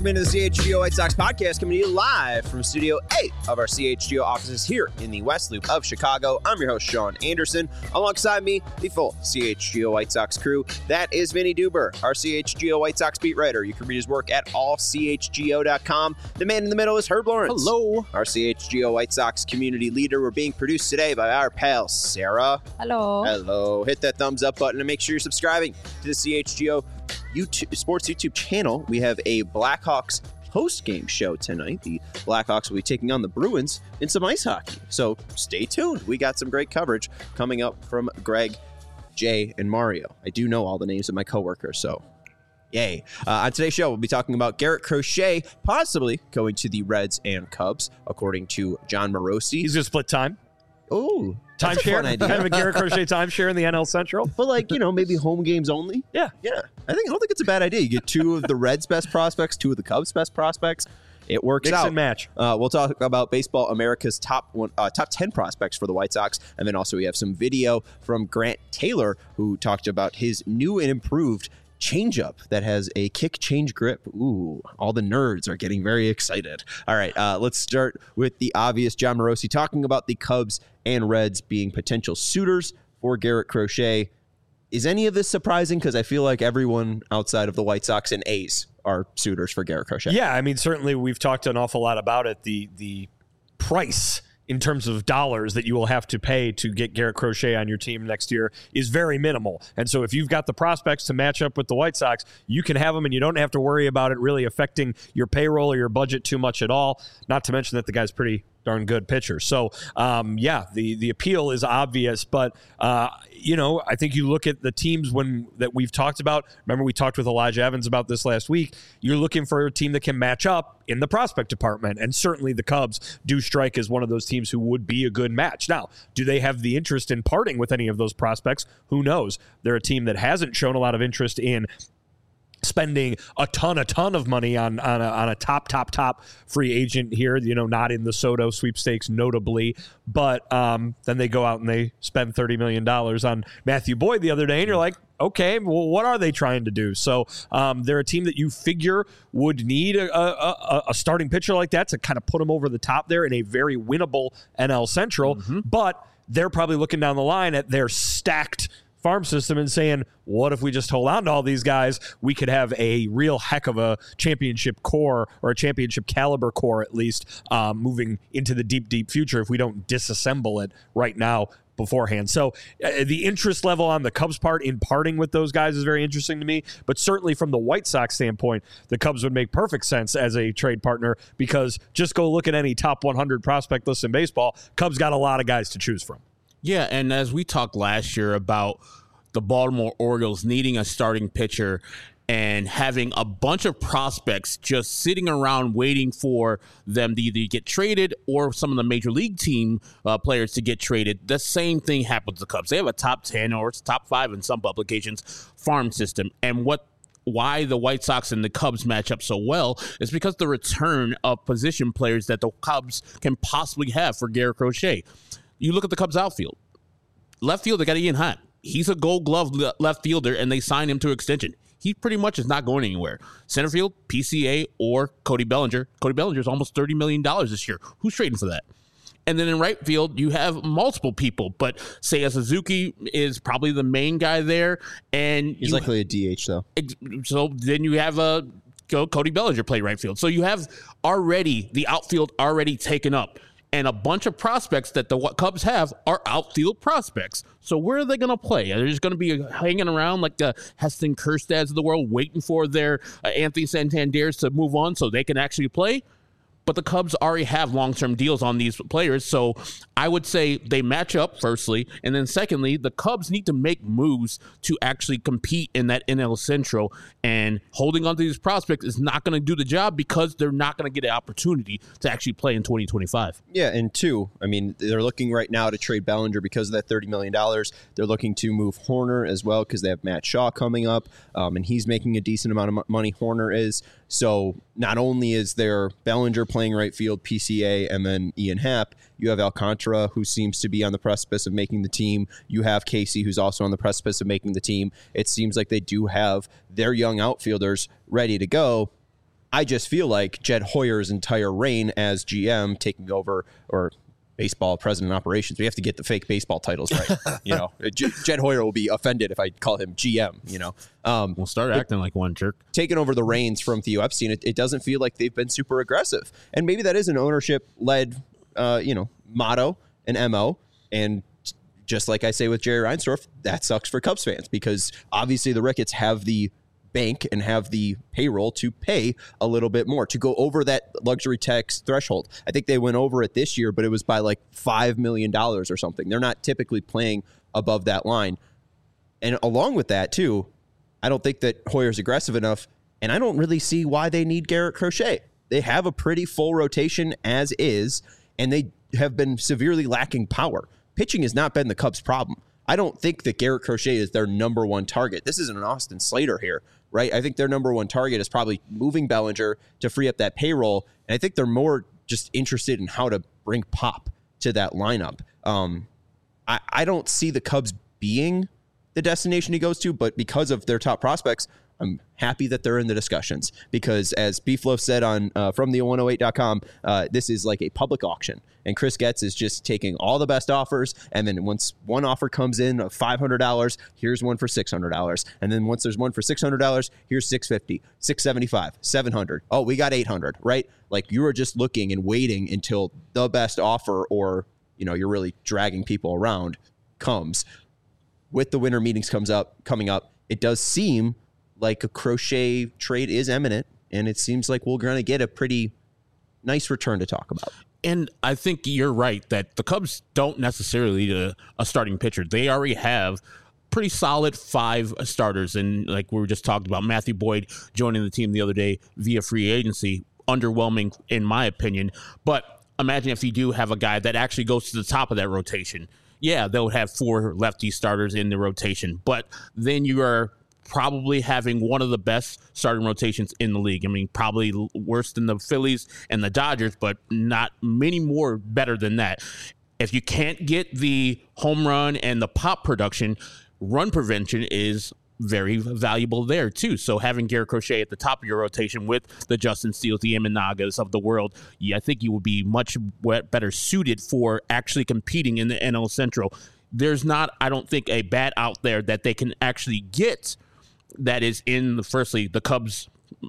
Welcome into the CHGO White Sox podcast, coming to you live from Studio 8 of our CHGO offices here in the West Loop of Chicago. I'm your host, Sean Anderson. Alongside me, the full CHGO White Sox crew. That is Vinny Duber, our CHGO White Sox beat writer. You can read his work at allchgo.com. The man in the middle is Herb Lawrence. Hello. Our CHGO White Sox community leader. We're being produced today by our pal, Sarah. Hello. Hello. Hit that thumbs up button and make sure you're subscribing to the CHGO Sports YouTube channel. We have a Blackhawks post-game show tonight. The Blackhawks will be taking on the Bruins in some ice hockey. So stay tuned. We got some great coverage coming up from Greg, Jay, and Mario. I do know all the names of my coworkers, so yay. On today's show, we'll be talking about Garrett Crochet possibly going to the Reds and Cubs, according to John Morosi. He's going to split time. Oh, Timeshare, kind of a Garrett Crochet timeshare in the NL Central. But maybe home games only. Yeah. I don't think it's a bad idea. You get two of the Reds' best prospects, two of the Cubs' best prospects. It works Mix out. And match. We'll talk about Baseball America's top 10 prospects for the White Sox, and then also we have some video from Grant Taylor, who talked about his new and improved changeup that has a kick change grip. Ooh, all the nerds are getting very excited. All right, let's start with the obvious. John Morosi talking about the Cubs and Reds being potential suitors for Garrett Crochet. Is any of this surprising? Because I feel like everyone outside of the White Sox and A's are suitors for Garrett Crochet. Yeah, I mean, certainly we've talked an awful lot about it. The price in terms of dollars that you will have to pay to get Garrett Crochet on your team next year is very minimal. And so if you've got the prospects to match up with the White Sox, you can have them and you don't have to worry about it really affecting your payroll or your budget too much at all. Not to mention that the guy's pretty darn good pitcher. So, the appeal is obvious, but, I think you look at the teams that we've talked about. Remember, we talked with Elijah Evans about this last week. You're looking for a team that can match up in the prospect department, and certainly the Cubs do strike as one of those teams who would be a good match. Now, do they have the interest in parting with any of those prospects? Who knows? They're a team that hasn't shown a lot of interest in spending a ton of money on a top free agent here, not in the Soto sweepstakes notably, but then they go out and they spend $30 million on Matthew Boyd the other day, and you're like, okay, well, what are they trying to do? So they're a team that you figure would need a starting pitcher like that to kind of put them over the top there in a very winnable NL Central, but they're probably looking down the line at their stacked farm system and saying, what if we just hold on to all these guys? We could have a real heck of a championship core, or a championship caliber core at least, moving into the deep future if we don't disassemble it right now beforehand. So the interest level on the Cubs part in parting with those guys is very interesting to me, but certainly from the White Sox standpoint, the Cubs would make perfect sense as a trade partner, because just go look at any top 100 prospect list in baseball. Cubs got a lot of guys to choose from. Yeah, and as we talked last year about the Baltimore Orioles needing a starting pitcher and having a bunch of prospects just sitting around waiting for them to either get traded or some of the major league team players to get traded, the same thing happens to the Cubs. They have a top 10 or top 5 in some publications farm system. And why the White Sox and the Cubs match up so well is because the return of position players that the Cubs can possibly have for Garrett Crochet. You look at the Cubs outfield. Left field, they got Ian Happ. He's a Gold Glove left fielder, and they signed him to extension. He pretty much is not going anywhere. Center field, PCA, or Cody Bellinger. Cody Bellinger is almost $30 million this year. Who's trading for that? And then in right field, you have multiple people, but Seiya Suzuki is probably the main guy there. And he's likely a DH, though. So then you have Cody Bellinger play right field. So you have already the outfield already taken up. And a bunch of prospects that the Cubs have are outfield prospects. So where are they going to play? Are they just going to be hanging around like the Heston Kjerstads of the world, waiting for their Anthony Santanders to move on so they can actually play? But the Cubs already have long-term deals on these players, so I would say they match up, firstly, and then secondly, the Cubs need to make moves to actually compete in that NL Central, and holding on to these prospects is not going to do the job because they're not going to get an opportunity to actually play in 2025. Yeah, and two, I mean, they're looking right now to trade Bellinger because of that $30 million. They're looking to move Horner as well because they have Matt Shaw coming up, and he's making a decent amount of money, Horner is. So not only is there Bellinger playing right field, PCA, and then Ian Happ, you have Alcantara, who seems to be on the precipice of making the team. You have Casey, who's also on the precipice of making the team. It seems like they do have their young outfielders ready to go. I just feel like Jed Hoyer's entire reign as GM taking over, or baseball president operations. We have to get the fake baseball titles right. Jed Hoyer will be offended if I call him GM, We'll start acting like one jerk. Taking over the reins from Theo Epstein, it doesn't feel like they've been super aggressive. And maybe that is an ownership-led, motto and MO. And just like I say with Jerry Reinsdorf, that sucks for Cubs fans because obviously the Ricketts have the bank and have the payroll to pay a little bit more to go over that luxury tax threshold. I think they went over it this year, but it was by like $5 million or something. They're not typically playing above that line. And along with that too, I don't think that Hoyer's aggressive enough, and I don't really see why they need Garrett Crochet. They have a pretty full rotation as is, and they have been severely lacking power. Pitching has not been the Cubs' problem. I don't think that Garrett Crochet is their number one target. This isn't an Austin Slater here, right? I think their number one target is probably moving Bellinger to free up that payroll. And I think they're more just interested in how to bring pop to that lineup. I don't see the Cubs being the destination he goes to, but because of their top prospects, I'm happy that they're in the discussions because as Beefloaf said on from the108.com, this is like a public auction. And Chris Getz is just taking all the best offers. And then once one offer comes in of $500, here's one for $600. And then once there's one for $600, here's $650, $675, $700. Oh, we got $800, right? Like you are just looking and waiting until the best offer or, you're really dragging people around comes. With the winter meetings coming up, it does seem like a Crochet trade is imminent, and it seems like we're going to get a pretty nice return to talk about. And I think you're right that the Cubs don't necessarily need a starting pitcher. They already have pretty solid 5 starters. And like we were just talking about, Matthew Boyd joining the team the other day via free agency, underwhelming in my opinion. But imagine if you do have a guy that actually goes to the top of that rotation. Yeah, they'll have 4 lefty starters in the rotation, but then you are probably having one of the best starting rotations in the league. I mean, probably worse than the Phillies and the Dodgers, but not many more better than that. If you can't get the home run and the pop production, run prevention is very valuable there too. So having Garrett Crochet at the top of your rotation with the Justin Steeles, the Imanagas of the world, I think you would be much better suited for actually competing in the NL Central. There's not, I don't think, a bat out there that they can actually get that is in the Cubs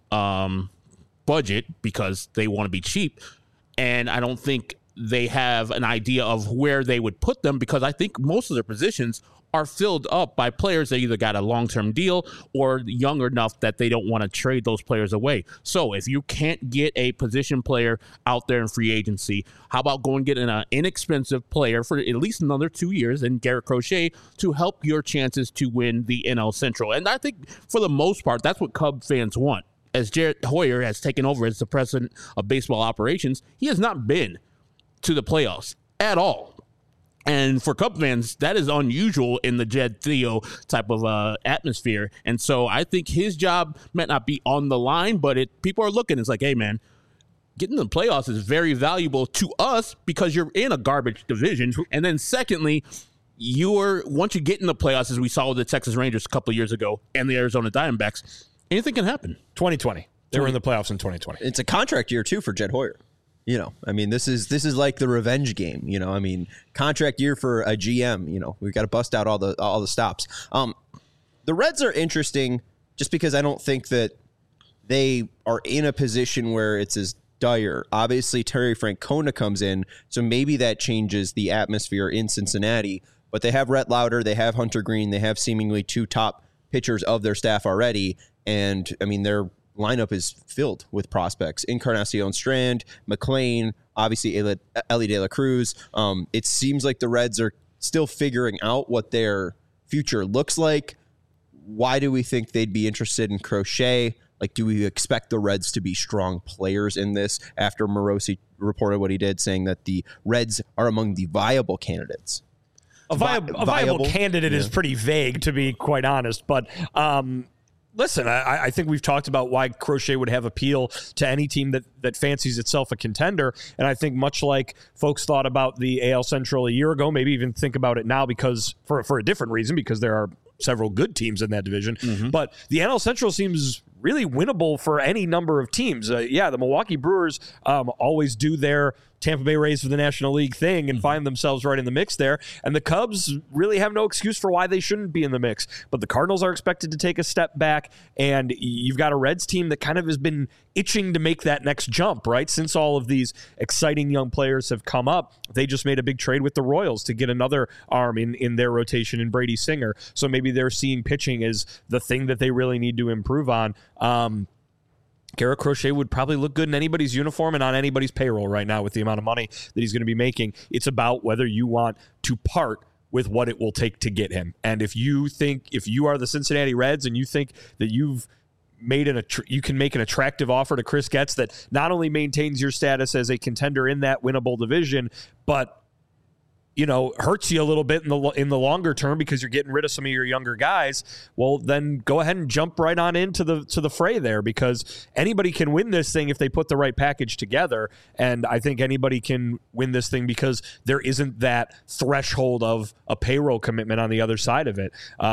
budget because they want to be cheap. And I don't think they have an idea of where they would put them because I think most of their positions are filled up by players that either got a long-term deal or young enough that they don't want to trade those players away. So if you can't get a position player out there in free agency, how about going and getting an inexpensive player for at least another 2 years and Garrett Crochet to help your chances to win the NL Central? And I think for the most part, that's what Cub fans want. As Jared Hoyer has taken over as the president of baseball operations, he has not been to the playoffs at all. And for Cub fans, that is unusual in the Jed Theo type of atmosphere. And so I think his job might not be on the line, but people are looking. It's like, hey, man, getting to the playoffs is very valuable to us because you're in a garbage division. And then secondly, once you get in the playoffs, as we saw with the Texas Rangers a couple of years ago and the Arizona Diamondbacks, anything can happen. 2020. They were in the playoffs in 2020. It's a contract year, too, for Jed Hoyer. This is like the revenge game. Contract year for a GM. We've got to bust out all the stops. The Reds are interesting just because I don't think that they are in a position where it's as dire. Obviously, Terry Francona comes in, so maybe that changes the atmosphere in Cincinnati. But they have Rhett Lauder, they have Hunter Green, they have seemingly 2 top pitchers of their staff already, and their lineup is filled with prospects. Encarnacion Strand, McLean, obviously Ellie De La Cruz. It seems like the Reds are still figuring out what their future looks like. Why do we think they'd be interested in Crochet? Like, do we expect the Reds to be strong players in this after Morosi reported what he did, saying that the Reds are among the viable candidates? A viable candidate is pretty vague, to be quite honest. But listen, I think we've talked about why Crochet would have appeal to any team that fancies itself a contender. And I think much like folks thought about the AL Central a year ago, maybe even think about it now because for a different reason, because there are several good teams in that division. Mm-hmm. But the NL Central seems really winnable for any number of teams. The Milwaukee Brewers always do their Tampa Bay Rays for the National League thing and find themselves right in the mix there. And the Cubs really have no excuse for why they shouldn't be in the mix. But the Cardinals are expected to take a step back, and you've got a Reds team that kind of has been itching to make that next jump, right? Since all of these exciting young players have come up, they just made a big trade with the Royals to get another arm in their rotation in Brady Singer. So maybe they're seeing pitching as the thing that they really need to improve on. Garrett Crochet would probably look good in anybody's uniform and on anybody's payroll right now with the amount of money that he's going to be making. It's about whether you want to part with what it will take to get him. And if you are the Cincinnati Reds and you think that you've made you can make an attractive offer to Chris Getz that not only maintains your status as a contender in that winnable division, but hurts you a little bit in the longer term because you're getting rid of some of your younger guys, well, then go ahead and jump right on into the fray there, because anybody can win this thing if they put the right package together. And I think anybody can win this thing because there isn't that threshold of a payroll commitment on the other side of it.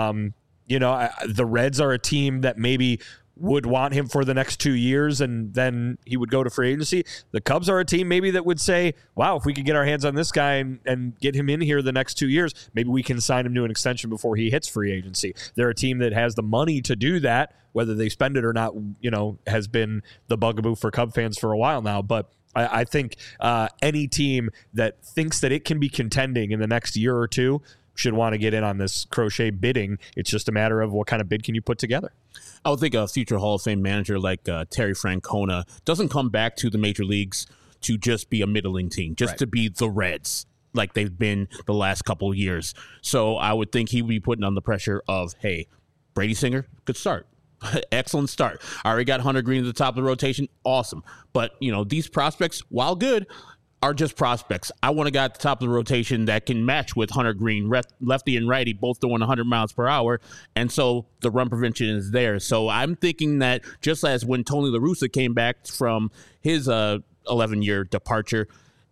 The Reds are a team that maybe would want him for the next 2 years and then he would go to free agency. The Cubs are a team maybe that would say, wow, if we could get our hands on this guy and get him in here the next 2 years, maybe we can sign him to an extension before he hits free agency. They're a team that has the money to do that. Whether they spend it or not, has been the bugaboo for Cub fans for a while now. But I think any team that thinks that it can be contending in the next year or two should want to get in on this Crochet bidding. It's just a matter of what kind of bid can you put together. I would think a future Hall of Fame manager like Terry Francona doesn't come back to the major leagues to just be a middling team, just to be the Reds like they've been the last couple of years. So I would think he would be putting on the pressure of, hey, Brady Singer, good start. Excellent start. I already got Hunter Green at the top of the rotation. Awesome. But, these prospects, while good, are just prospects. I want a guy at the top of the rotation that can match with Hunter Green, lefty and righty, both doing 100 miles per hour. And so the run prevention is there. So I'm thinking that just as when Tony La Russa came back from his 11-year departure,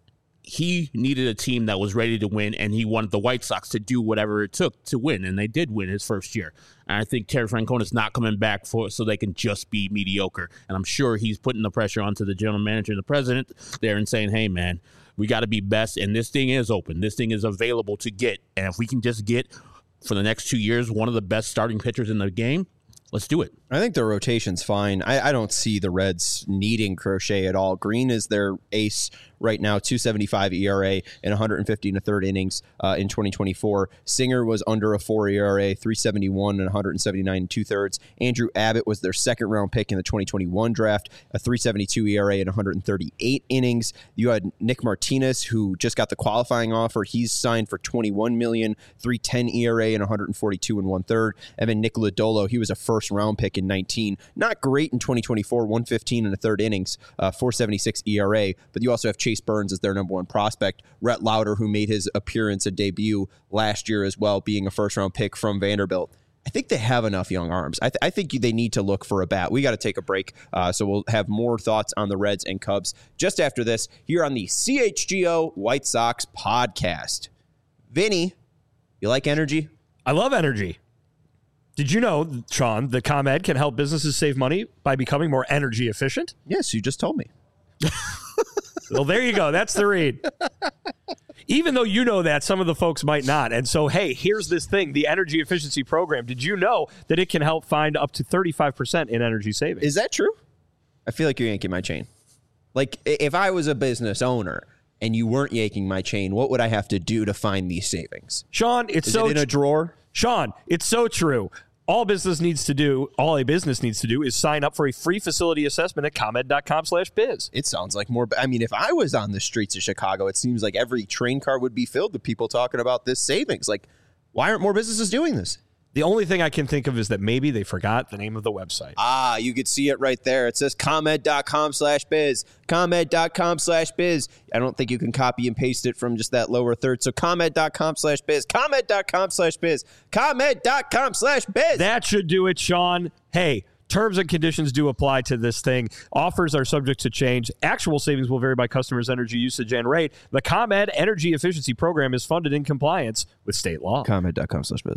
he needed a team that was ready to win, and he wanted the White Sox to do whatever it took to win, and they did win his first year. And I think Terry Francona is not coming back so they can just be mediocre. And I'm sure he's putting the pressure onto the general manager and the president there and saying, hey, man, we got to be best, and this thing is open. This thing is available to get. And if we can just get, for the next 2 years, one of the best starting pitchers in the game, let's do it. I think the rotation's fine. I don't see the Reds needing Crochet at all. Green is their ace right now, 2.75 ERA and 150 and a third innings in 2024. Singer was under a 4 ERA, 3.71 and 179 and 2/3. Andrew Abbott was their second round pick in the 2021 draft, a 3.72 ERA and 138 innings. You had Nick Martinez, who just got the qualifying offer. He's signed for $21 million, 3.10 ERA and 142 and 1/3. Evan Nick Lodolo, he was a first round pick in 19. Not great in 2024, 115 and a third innings, 4.76 ERA. But you also have Chase Burns as their number one prospect. Rhett Lauder, who made his appearance and debut last year as well, being a first round pick from Vanderbilt. I think they have enough young arms. I think they need to look for a bat. We got to take a break, so we'll have more thoughts on the Reds and Cubs just after this here on the CHGO White Sox podcast. Vinny, you like energy? I love energy. Did you know, Sean, that ComEd can help businesses save money by becoming more energy efficient? Yes, you just told me. Well, there you go. That's the read. Even though you know that, some of the folks might not. And so, hey, here's this thing, the energy efficiency program. Did you know that it can help find up to 35% in energy savings? Is that true? I feel like you're yanking my chain. Like, if I was a business owner and you weren't yanking my chain, what would I have to do to find these savings? Sean, it's Is it in a drawer? Sean, it's so true. All a business needs to do is sign up for a free facility assessment at ComEd.com/biz. It sounds like more. I mean, if I was on the streets of Chicago, it seems like every train car would be filled with people talking about this savings. Like, why aren't more businesses doing this? The only thing I can think of is that maybe they forgot the name of the website. You could see it right there. It says ComEd.com/biz. ComEd.com/biz. I don't think you can copy and paste it from just that lower third. So ComEd.com/biz. ComEd.com/biz. ComEd.com/biz. That should do it, Sean. Hey, terms and conditions do apply to this thing. Offers are subject to change. Actual savings will vary by customers' energy usage and rate. The ComEd Energy Efficiency Program is funded in compliance with state law. ComEd.com/biz.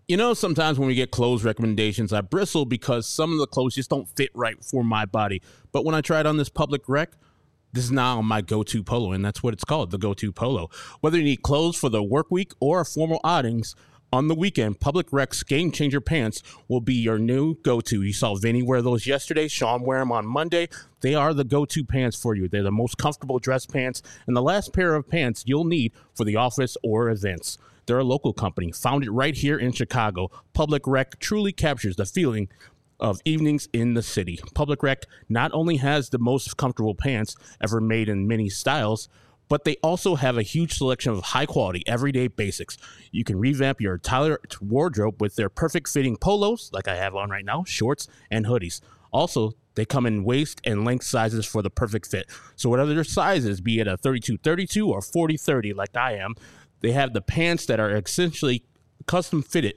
You know, sometimes when we get clothes recommendations, I bristle because some of the clothes just don't fit right for my body. But when I try it on this Public Rec, this is now my go-to polo, and that's what it's called, the go-to polo. Whether you need clothes for the work week or formal outings on the weekend, Public Rec's Game Changer pants will be your new go-to. You saw Vinny wear those yesterday. Sean wear them on Monday. They are the go-to pants for you. They're the most comfortable dress pants and the last pair of pants you'll need for the office or events. They're a local company, founded right here in Chicago. Public Rec truly captures the feeling of evenings in the city. Public Rec not only has the most comfortable pants ever made in many styles, but they also have a huge selection of high-quality, everyday basics. You can revamp your entire wardrobe with their perfect-fitting polos, like I have on right now, shorts, and hoodies. Also, they come in waist and length sizes for the perfect fit. So whatever your size is, be it a 32-32 or 40-30 like I am, they have the pants that are essentially custom fitted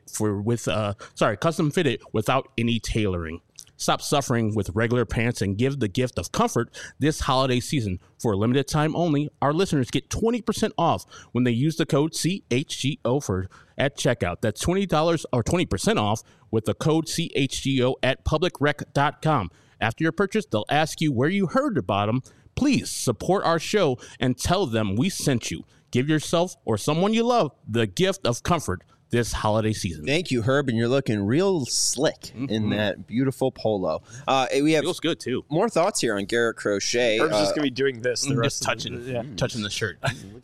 without any tailoring. Stop suffering with regular pants and give the gift of comfort this holiday season. For a limited time only, our listeners get 20% off when they use the code CHGO at checkout. That's $20 or 20% off with the code CHGO at publicrec.com. After your purchase, they'll ask you where you heard about them. Please support our show and tell them we sent you. Give yourself or someone you love the gift of comfort this holiday season. Thank you, Herb, and you're looking real slick in that beautiful polo. We have feels good too. More thoughts here on Garrett Crochet. Herb's just gonna be doing this the rest touching the shirt.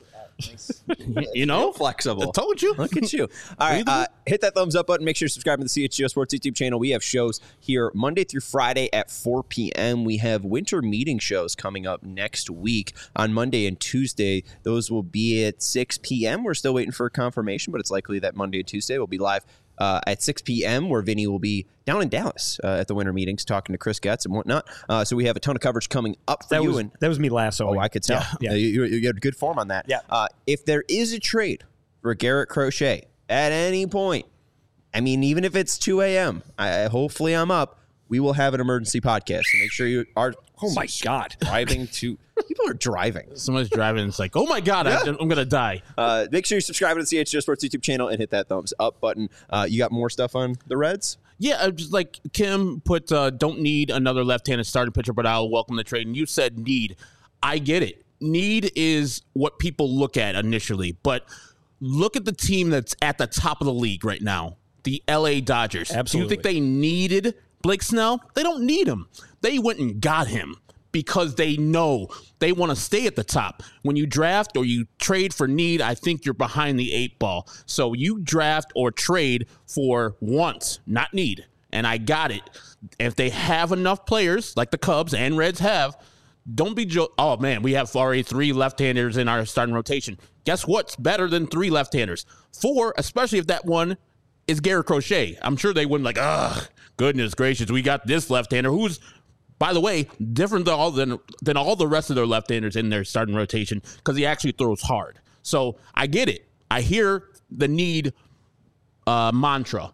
Nice. You know, flexible. I told you. Look at you. All right, hit that thumbs up button. Make sure you subscribe to the CHGO Sports YouTube channel. We have shows here Monday through Friday at 4 p.m. We have winter meeting shows coming up next week on Monday and Tuesday. Those will be at 6 p.m. We're still waiting for confirmation, but it's likely that Monday and Tuesday will be live at 6 p.m. where Vinny will be down in Dallas at the winter meetings talking to Chris Getz and whatnot. So we have a ton of coverage coming up for you. That was me last. Oh, I could tell. Yeah. You had good form on that. Yeah. If there is a trade for Garrett Crochet at any point, I mean, even if it's 2 a.m., hopefully I'm up, we will have an emergency podcast. So make sure you are. Oh, my God. Driving to. People are driving. Someone's driving. It's like, oh, my God, I'm going to die. Make sure you subscribe to the CHGO Sports YouTube channel and hit that thumbs up button. You got more stuff on the Reds? Yeah, just like Kim put, don't need another left-handed starting pitcher, but I'll welcome the trade. And you said need. I get it. Need is what people look at initially, but look at the team that's at the top of the league right now, the LA Dodgers. Absolutely. Do you think they needed Blake Snell? They don't need him. They went and got him because they know they want to stay at the top. When you draft or you trade for need, I think you're behind the 8 ball. So you draft or trade for wants, not need. And I got it. If they have enough players, like the Cubs and Reds have, don't be oh, man, we have already 3 left-handers in our starting rotation. Guess what's better than 3 left-handers? 4, especially if that one is Garrett Crochet. I'm sure they wouldn't goodness gracious, we got this left-hander who's, by the way, different than all the rest of their left-handers in their starting rotation because he actually throws hard. So I get it. I hear the need mantra.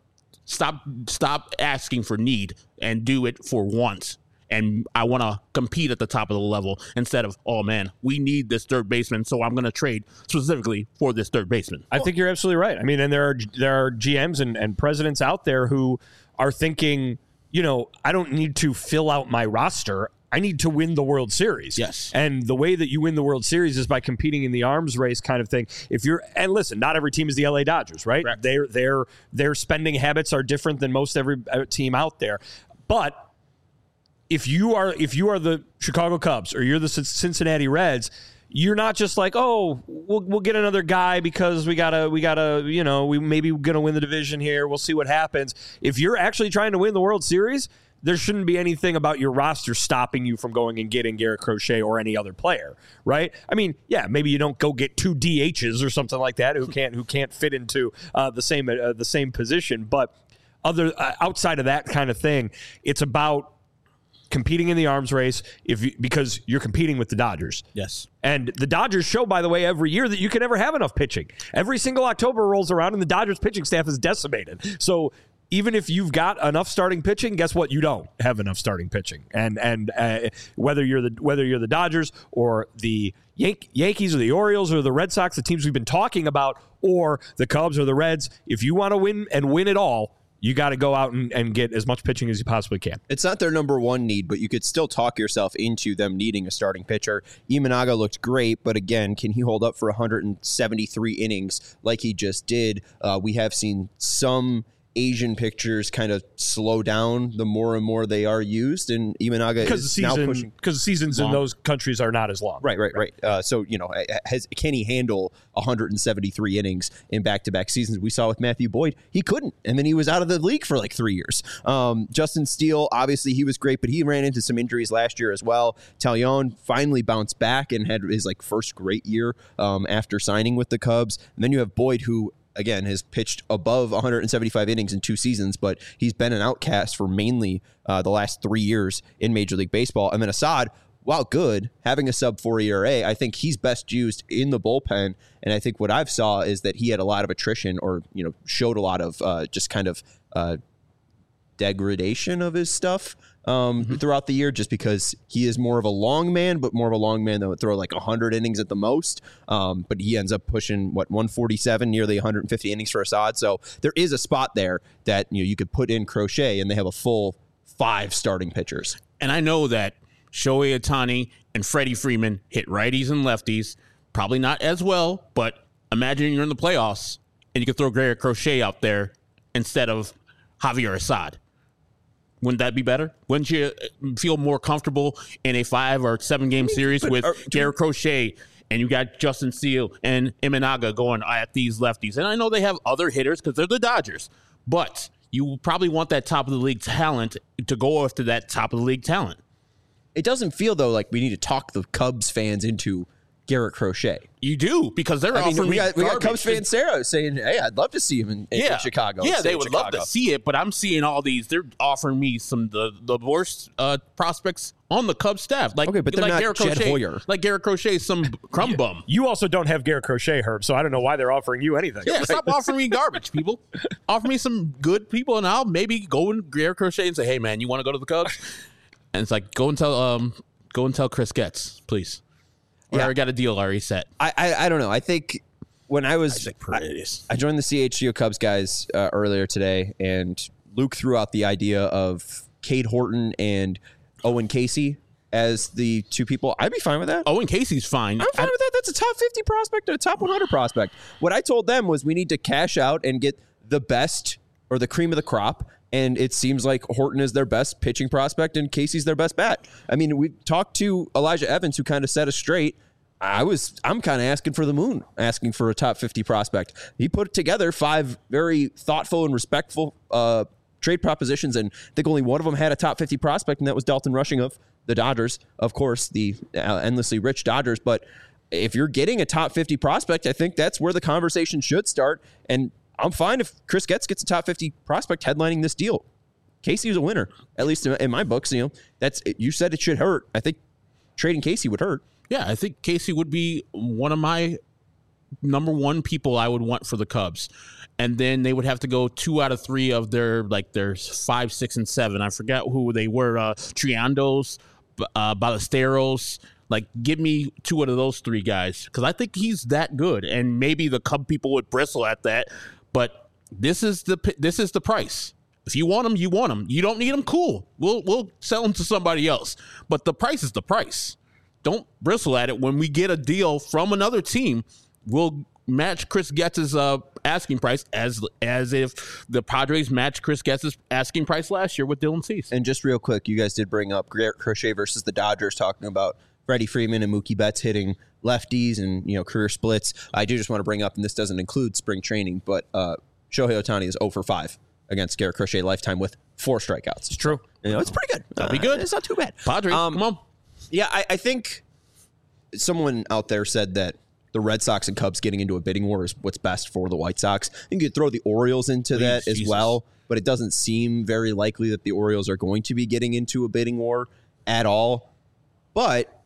Stop asking for need and do it for once. And I want to compete at the top of the level instead of, oh, man, we need this third baseman, so I'm going to trade specifically for this third baseman. I think you're absolutely right. I mean, and there are GMs and presidents out there who are thinking, I don't need to fill out my roster. I need to win the World Series. Yes. And the way that you win the World Series is by competing in the arms race kind of thing. And listen, not every team is the LA Dodgers, right? Correct. Their spending habits are different than most every team out there. But if you are the Chicago Cubs or you're the Cincinnati Reds, you're not just like, oh, we'll get another guy because we maybe gonna win the division here. We'll see what happens. If you're actually trying to win the World Series, there shouldn't be anything about your roster stopping you from going and getting Garrett Crochet or any other player, right? I mean, yeah, maybe you don't go get 2 DHs or something like that who can't fit into the same position, but outside of that kind of thing, it's about competing in the arms race because you're competing with the Dodgers. Yes. And the Dodgers show, by the way, every year that you can never have enough pitching. Every single October rolls around and the Dodgers pitching staff is decimated. So even if you've got enough starting pitching, guess what? You don't have enough starting pitching. And whether you're the Dodgers or the Yankees or the Orioles or the Red Sox, the teams we've been talking about, or the Cubs or the Reds, if you want to win and win it all, you got to go out and get as much pitching as you possibly can. It's not their number one need, but you could still talk yourself into them needing a starting pitcher. Imanaga looked great, but again, can he hold up for 173 innings like he just did? We have seen some Asian pitchers kind of slow down the more and more they are used, and Imanaga is now pushing. Because the seasons in those countries are not as long. Right. So, can he handle 173 innings in back-to-back seasons? We saw with Matthew Boyd, he couldn't, and then he was out of the league for like 3 years. Justin Steele, obviously he was great, but he ran into some injuries last year as well. Taillon finally bounced back and had his first great year after signing with the Cubs. And then you have Boyd, who again has pitched above 175 innings in 2 seasons, but he's been an outcast for mainly the last 3 years in Major League Baseball. And then Assad, while good, having a sub-4 ERA, I think he's best used in the bullpen. And I think what I've saw is that he had a lot of attrition, or showed a lot of just kind of degradation of his stuff throughout the year, just because he is more of a long man, but more of a long man that would throw like 100 innings at the most. But he ends up pushing 147, nearly 150 innings for Assad. So there is a spot there that you could put in Crochet, and they have a full 5 starting pitchers. And I know that Shohei Ohtani and Freddie Freeman hit righties and lefties, probably not as well, but imagine you're in the playoffs and you could throw Garrett Crochet out there instead of Javier Assad. Wouldn't that be better? Wouldn't you feel more comfortable in a 5 or 7 game series with Garrett Crochet, and you got Justin Steele and Imanaga going at these lefties? And I know they have other hitters because they're the Dodgers, but you probably want that top of the league talent to go after that top of the league talent. It doesn't feel, though, like we need to talk the Cubs fans into Garrett Crochet. You do, because they're offering we got Cubs fan Sarah saying, hey, I'd love to see him in Chicago. Yeah, they would love to see it, but I'm seeing all these. They're offering me some the worst prospects on the Cubs staff. But they're not Garrett Jed Hoyer. Like Garrett Crochet, some crumb bum. You also don't have Garrett Crochet, Herb, so I don't know why they're offering you anything. Yeah, stop offering me garbage, people. Offer me some good people, and I'll maybe go in Garrett Crochet and say, hey, man, you want to go to the Cubs? And it's like, go and tell Chris Getz, please. I already got a deal already set. I don't know. I think when I joined the CHGO Cubs guys earlier today, and Luke threw out the idea of Cade Horton and Owen Casey as the 2 people. I'd be fine with that. Owen Casey's fine. I'm fine with that. That's a top 50 prospect and a top 100 prospect. What I told them was we need to cash out and get the best or the cream of the crop. And it seems like Horton is their best pitching prospect and Casey's their best bat. I mean, we talked to Elijah Evans, who kind of set us straight. I'm kind of asking for the moon, asking for a top 50 prospect. He put together 5 very thoughtful and respectful trade propositions, and I think only one of them had a top 50 prospect, and that was Dalton Rushing of the Dodgers. Of course, the endlessly rich Dodgers. But if you're getting a top 50 prospect, I think that's where the conversation should start. And I'm fine if Chris Getz gets a top 50 prospect headlining this deal. Casey is a winner, at least in my books. You said it should hurt. I think trading Casey would hurt. Yeah, I think Casey would be one of my number 1 people I would want for the Cubs. And then they would have to go 2 out of 3 of their 5, 6, and 7. I forgot who they were. Triandos, Ballesteros. Give me 2 out of those 3 guys, because I think he's that good. And maybe the Cub people would bristle at that. But this is the price. If you want him, you want him. You don't need him, cool. We'll sell him to somebody else. But the price is the price. Don't bristle at it. When we get a deal from another team, we'll match Chris Getz's asking price as if the Padres matched Chris Getz's asking price last year with Dylan Cease. And just real quick, you guys did bring up Garrett Crochet versus the Dodgers, talking about Freddie Freeman and Mookie Betts hitting lefties and career splits. I do just want to bring up, and this doesn't include spring training, but Shohei Ohtani is 0 for 5 against Garrett Crochet lifetime with 4 strikeouts. It's true. It's pretty good. That'll be good. It's not too bad. Padres, come on. Yeah, I think someone out there said that the Red Sox and Cubs getting into a bidding war is what's best for the White Sox. I think you could throw the Orioles into that as well, but it doesn't seem very likely that the Orioles are going to be getting into a bidding war at all. But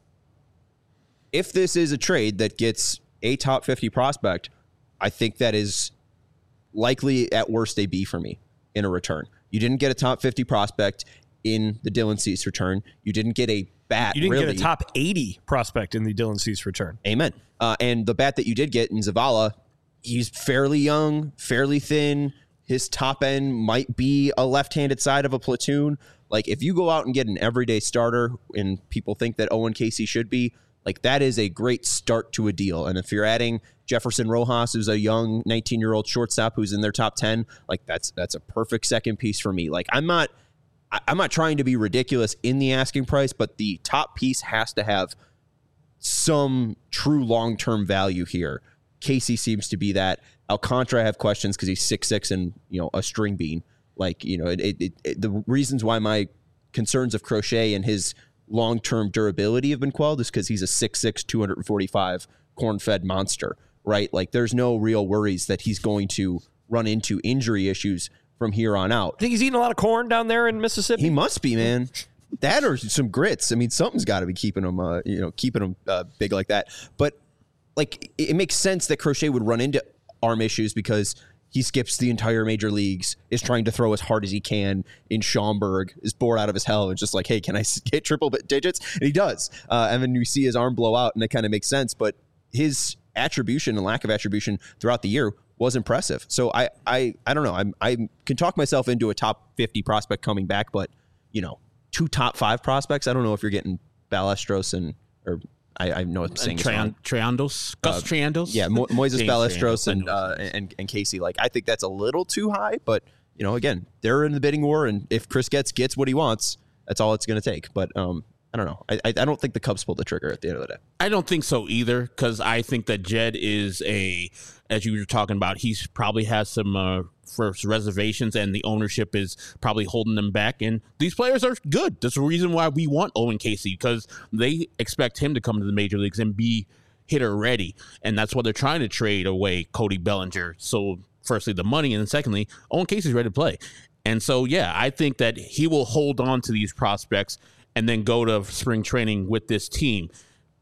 if this is a trade that gets a top 50 prospect, I think that is likely at worst a B for me in a return. You didn't get a top 50 prospect in the Dylan Cease return. You didn't get a bat. You didn't really. get a top 80 prospect in the Dylan Cease return. Amen. And the bat that you did get in Zavala, he's fairly young, fairly thin. His top end might be a left-handed side of a platoon. Like, if you go out and get an everyday starter and people think that Owen Casey should be, like, that is a great start to a deal. And if you're adding Jefferson Rojas, who's a young 19-year-old shortstop who's in their top 10, like, that's a perfect second piece for me. Like, I'm not trying to be ridiculous in the asking price, but the top piece has to have some true long-term value here. Casey seems to be that. Alcantara, I have questions because he's 6'6" and, you know, a string bean. Like, you know, the reasons why my concerns of Crochet and his long-term durability have been quelled is because he's a 6'6", 245 corn-fed monster, right? Like, there's no real worries that he's going to run into injury issues from here on out. I think he's eating a lot of corn down there in Mississippi. He must be, man. That or some grits. I mean, something's got to be keeping him, big like that. But, like, it makes sense that Crochet would run into arm issues because he skips the entire major leagues, is trying to throw as hard as he can in Schaumburg, is bored out of his hell, and just like, hey, can I hit triple digits? And he does. And then you see his arm blow out, and it kind of makes sense. But his attribution and lack of attribution throughout the year was impressive. So I don't know. I can talk myself into a top 50 prospect coming back, but, you know, 2 top 5 prospects, I don't know if you're getting Ballesteros I know what I'm saying. Triandos, Gus Triandos. Yeah, Moises Ballesteros and Casey. Like, I think that's a little too high, but, you know, again, they're in the bidding war, and if Chris gets what he wants, that's all it's going to take. But I don't know. I don't think the Cubs pulled the trigger at the end of the day. I don't think so either, because I think that Jed is as you were talking about, he's probably has some first reservations, and the ownership is probably holding them back. And these players are good. That's the reason why we want Owen Casey, because they expect him to come to the major leagues and be hitter ready. And that's why they're trying to trade away Cody Bellinger. So firstly, the money, and then secondly, Owen Casey's ready to play. And so, yeah, I think that he will hold on to these prospects and then go to spring training with this team.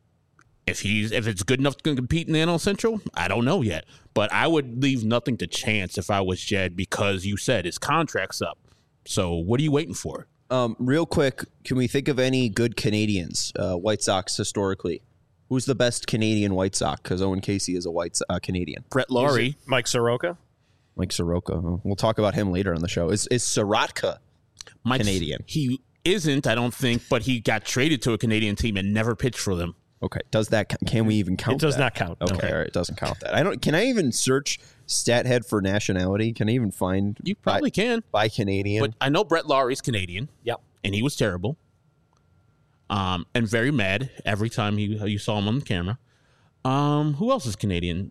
If it's good enough to compete in the NL Central, I don't know yet. But I would leave nothing to chance if I was Jed, because you said his contract's up. So what are you waiting for? Real quick, can we think of any good Canadians, White Sox historically? Who's the best Canadian White Sox? Because Owen Casey is a Canadian. Brett Lawrie. Mike Soroka? Mike Soroka. We'll talk about him later on the show. Is Soroka Canadian? He isn't, I don't think, but he got traded to a Canadian team and never pitched for them. Okay. Does that? Can we even count? It does that? not count. Okay. All right. It doesn't count that. Can I even search StatHead for nationality? Can I even find? You probably can by Canadian. But I know Brett Laurie's Canadian. Yep. And he was terrible. And very mad every time you saw him on the camera. Who else is Canadian?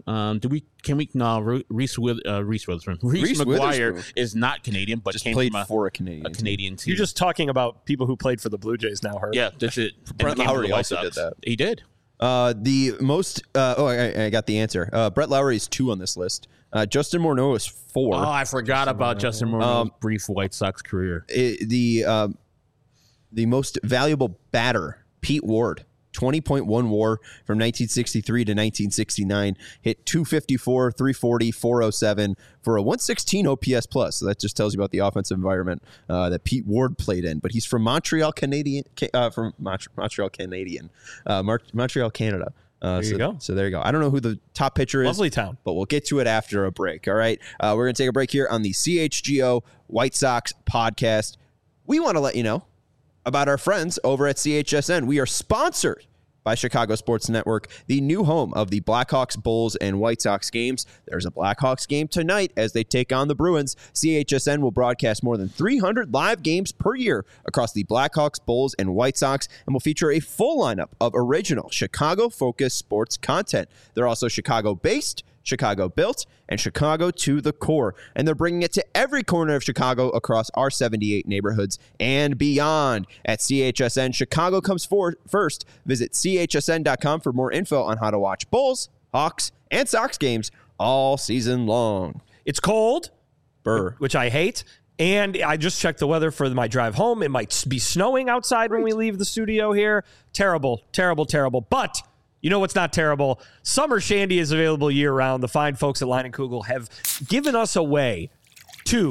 Reese Witherspoon. Reese McGuire is not Canadian, but just came played from for a Canadian team. You're just talking about people who played for the Blue Jays now, Herb. Yeah, that's it. Brett Lowry also did that. He did. The most. I got the answer. Brett Lowry is 2 on this list. Justin Morneau is 4. Oh, I forgot about Justin Morneau's brief White Sox career. The most valuable batter, Pete Ward. 20.1 WAR from 1963 to 1969, hit 254, 340, 407 for a 116 OPS plus. So that just tells you about the offensive environment that Pete Ward played in. But he's from Montreal, Canada. There you go. So there you go. I don't know who the top pitcher is. Lovely town. But we'll get to it after a break. All right. We're going to take a break here on the CHGO White Sox podcast. We want to let you know about our friends over at CHSN. We are sponsored by Chicago Sports Network, the new home of the Blackhawks, Bulls, and White Sox games. There's a Blackhawks game tonight as they take on the Bruins. CHSN will broadcast more than 300 live games per year across the Blackhawks, Bulls, and White Sox, and will feature a full lineup of original Chicago-focused sports content. They're also Chicago-based, Chicago-built, and Chicago to the core. And they're bringing it to every corner of Chicago across our 78 neighborhoods and beyond. At CHSN, Chicago comes first. Visit chsn.com for more info on how to watch Bulls, Hawks, and Sox games all season long. It's cold, Burr, which I hate. And I just checked the weather for my drive home. It might be snowing outside when we leave the studio here. Terrible, terrible, terrible. But you know what's not terrible? Summer Shandy is available year-round. The fine folks at Line & Kugel have given us a way to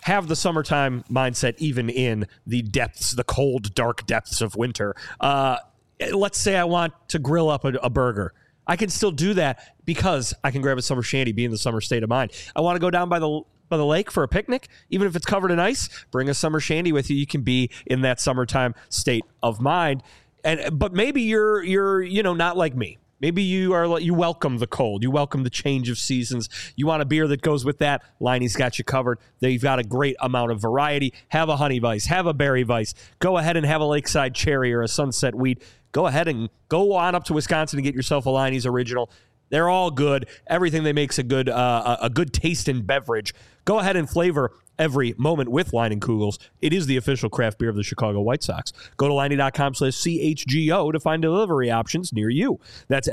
have the summertime mindset even in the depths, the cold, dark depths of winter. Let's say I want to grill up a burger. I can still do that because I can grab a summer shandy, be in the summer state of mind. I want to go down by the lake for a picnic, even if it's covered in ice. Bring a summer shandy with you. You can be in that summertime state of mind. But maybe you're not like me. Maybe you welcome the cold. You welcome the change of seasons. You want a beer that goes with that. Liney's got you covered. They've got a great amount of variety. Have a honey vice. Have a berry vice. Go ahead and have a lakeside cherry or a sunset wheat. Go ahead and go on up to Wisconsin and get yourself a Liney's Original. They're all good. Everything they make's a good taste in beverage. Go ahead and flavor every moment with Leinenkugels. It is the official craft beer of the Chicago White Sox. Go to Liney.com/CHGO to find delivery options near you. That's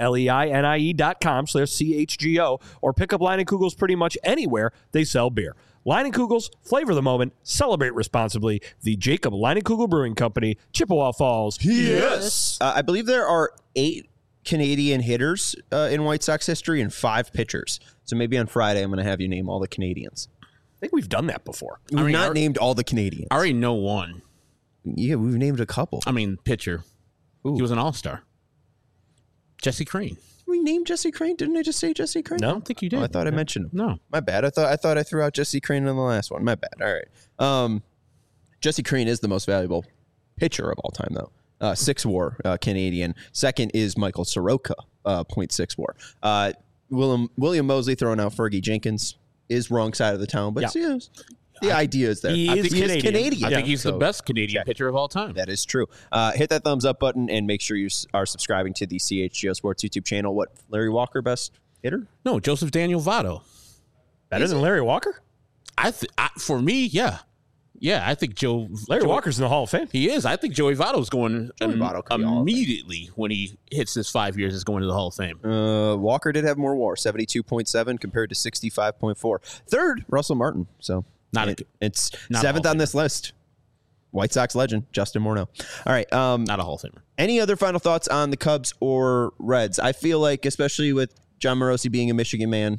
LEINIE.com/CHGO, or pick up Leinenkugels pretty much anywhere they sell beer. Leinenkugels, flavor the moment, celebrate responsibly. The Jacob Leinenkugel Brewing Company, Chippewa Falls. Yes. I believe there are 8 Canadian hitters in White Sox history and 5 pitchers. So maybe on Friday I'm going to have you name all the Canadians. I think we've done that before. We've not named all the Canadians. I already know one. Yeah, we've named a couple. Pitcher. Ooh. He was an all-star. Jesse Crane. We named Jesse Crane? Didn't I just say Jesse Crane? No, I don't think you did. Oh, I thought I mentioned him. No. My bad. I thought I threw out Jesse Crane in the last one. My bad. All right. Jesse Crane is the most valuable pitcher of all time, though. 6 WAR Canadian. Second is Michael Soroka, 0.6 WAR. William Mosley throwing out Fergie Jenkins is wrong side of the town, but the idea is there. He is Canadian. I think he's the best Canadian pitcher of all time. That is true. Hit that thumbs up button and make sure you are subscribing to the CHGO Sports YouTube channel. What, Larry Walker, best hitter? No, Joseph Daniel Votto. Better than Larry Walker? For me, yeah. Yeah, I think Larry Walker's in the Hall of Fame. He is. I think Joey Votto's going Votto immediately when he hits this 5 years is going to the Hall of Fame. Walker did have more WAR, 72.7 compared to 65.4. Third, Russell Martin. So it's seventh on this list. White Sox legend, Justin Morneau. All right. Not a Hall of Famer. Any other final thoughts on the Cubs or Reds? I feel like, especially with John Morosi being a Michigan man,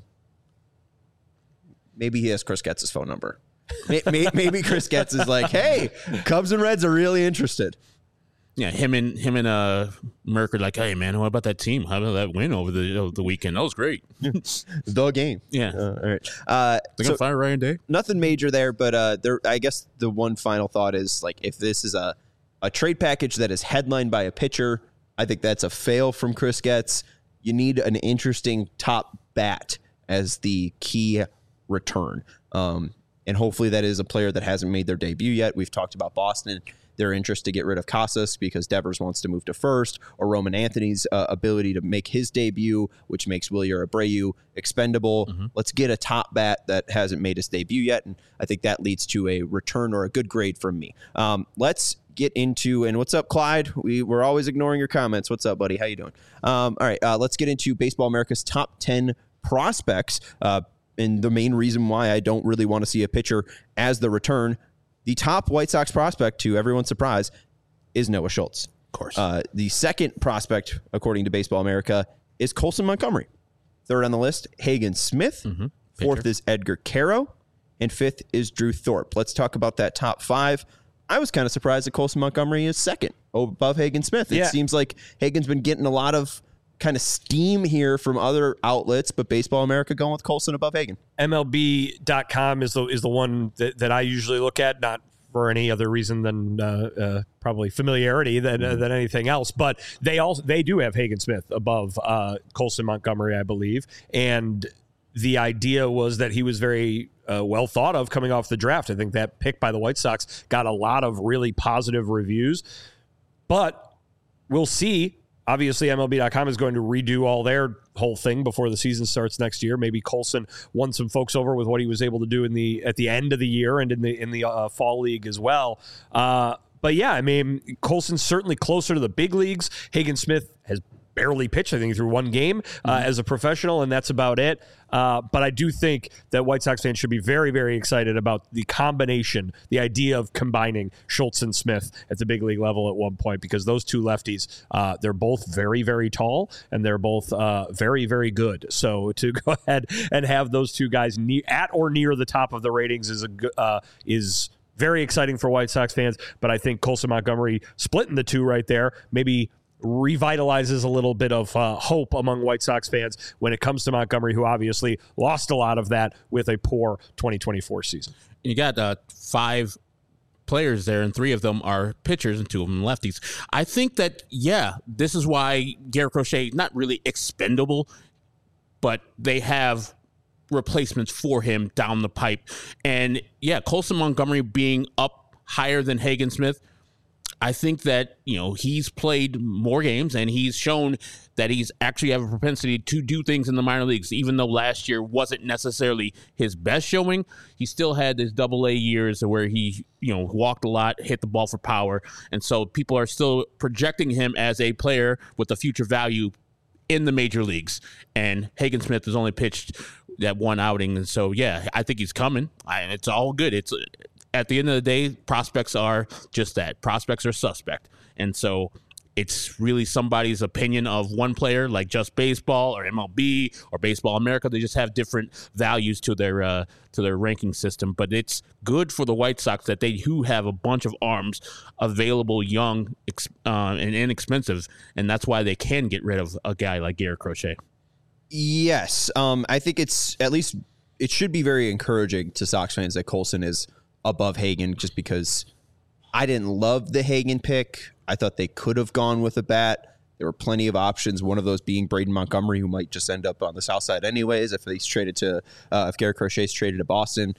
maybe he has Chris Getz's phone number. Maybe Chris Getz is like, hey, Cubs and Reds are really interested. Yeah, him and Merck are like, hey, man, what about that team? How about that win over the weekend? That was great. The game. Yeah. All right. They're going to fire Ryan Day? Nothing major there, but I guess the one final thought is, like, if this is a trade package that is headlined by a pitcher, I think that's a fail from Chris Getz. You need an interesting top bat as the key return. And hopefully that is a player that hasn't made their debut yet. We've talked about Boston, their interest to get rid of Casas because Devers wants to move to first, or Roman Anthony's ability to make his debut, which makes Wilyer Abreu expendable. Mm-hmm. Let's get a top bat that hasn't made his debut yet, and I think that leads to a return or a good grade from me. Let's get into, and what's up, Clyde? We're always ignoring your comments. What's up, buddy? How you doing? All right, let's get into Baseball America's top 10 prospects. And the main reason why I don't really want to see a pitcher as the return, the top White Sox prospect, to everyone's surprise, is Noah Schultz. Of course. The second prospect, according to Baseball America, is Colson Montgomery. Third on the list, Hagen Smith. Mm-hmm. Fourth is Edgar Caro. And fifth is Drew Thorpe. Let's talk about that top 5. I was kind of surprised that Colson Montgomery is second above Hagen Smith. It seems like Hagen's been getting a lot of kind of steam here from other outlets, but Baseball America going with Colson above Hagen. MLB.com is the one that I usually look at, not for any other reason than probably familiarity than anything else. But they do have Hagen Smith above Colson Montgomery, I believe. And the idea was that he was very well thought of coming off the draft. I think that pick by the White Sox got a lot of really positive reviews. But we'll see. Obviously, MLB.com is going to redo all their whole thing before the season starts next year. Maybe Colson won some folks over with what he was able to do at the end of the year and in the fall league as well. But yeah, I mean, Colson's certainly closer to the big leagues. Hagen Smith has barely pitched, I think, through one game as a professional, and that's about it. But I do think that White Sox fans should be very, very excited about the combination, the idea of combining Schultz and Smith at the big league level at one point, because those two lefties, they're both very, very tall, and they're both very, very good. So to go ahead and have those two guys at or near the top of the ratings is very exciting for White Sox fans. But I think Colson Montgomery splitting the two right there maybe revitalizes a little bit of hope among White Sox fans when it comes to Montgomery, who obviously lost a lot of that with a poor 2024 season. You got 5 players there, and 3 of them are pitchers and 2 of them lefties. I think that, this is why Garrett Crochet, not really expendable, but they have replacements for him down the pipe. And Colson Montgomery being up higher than Hagen Smith, I think that, he's played more games and he's shown that he's actually have a propensity to do things in the minor leagues. Even though last year wasn't necessarily his best showing, he still had his AA years where he, walked a lot, hit the ball for power. And so people are still projecting him as a player with a future value in the major leagues. And Hagen Smith has only pitched that one outing. And so, I think he's coming. It's all good. It's at the end of the day, prospects are just that. Prospects are suspect. And so it's really somebody's opinion of one player, like Just Baseball or MLB or Baseball America. They just have different values to their ranking system. But it's good for the White Sox that they do have a bunch of arms available, young and inexpensive, and that's why they can get rid of a guy like Garrett Crochet. Yes, I think it should be very encouraging to Sox fans that Colson is above Hagen, just because I didn't love the Hagen pick. I thought they could have gone with a bat. There were plenty of options, one of those being Braden Montgomery, who might just end up on the south side anyways if he's traded to if Garrett Crochet's traded to Boston.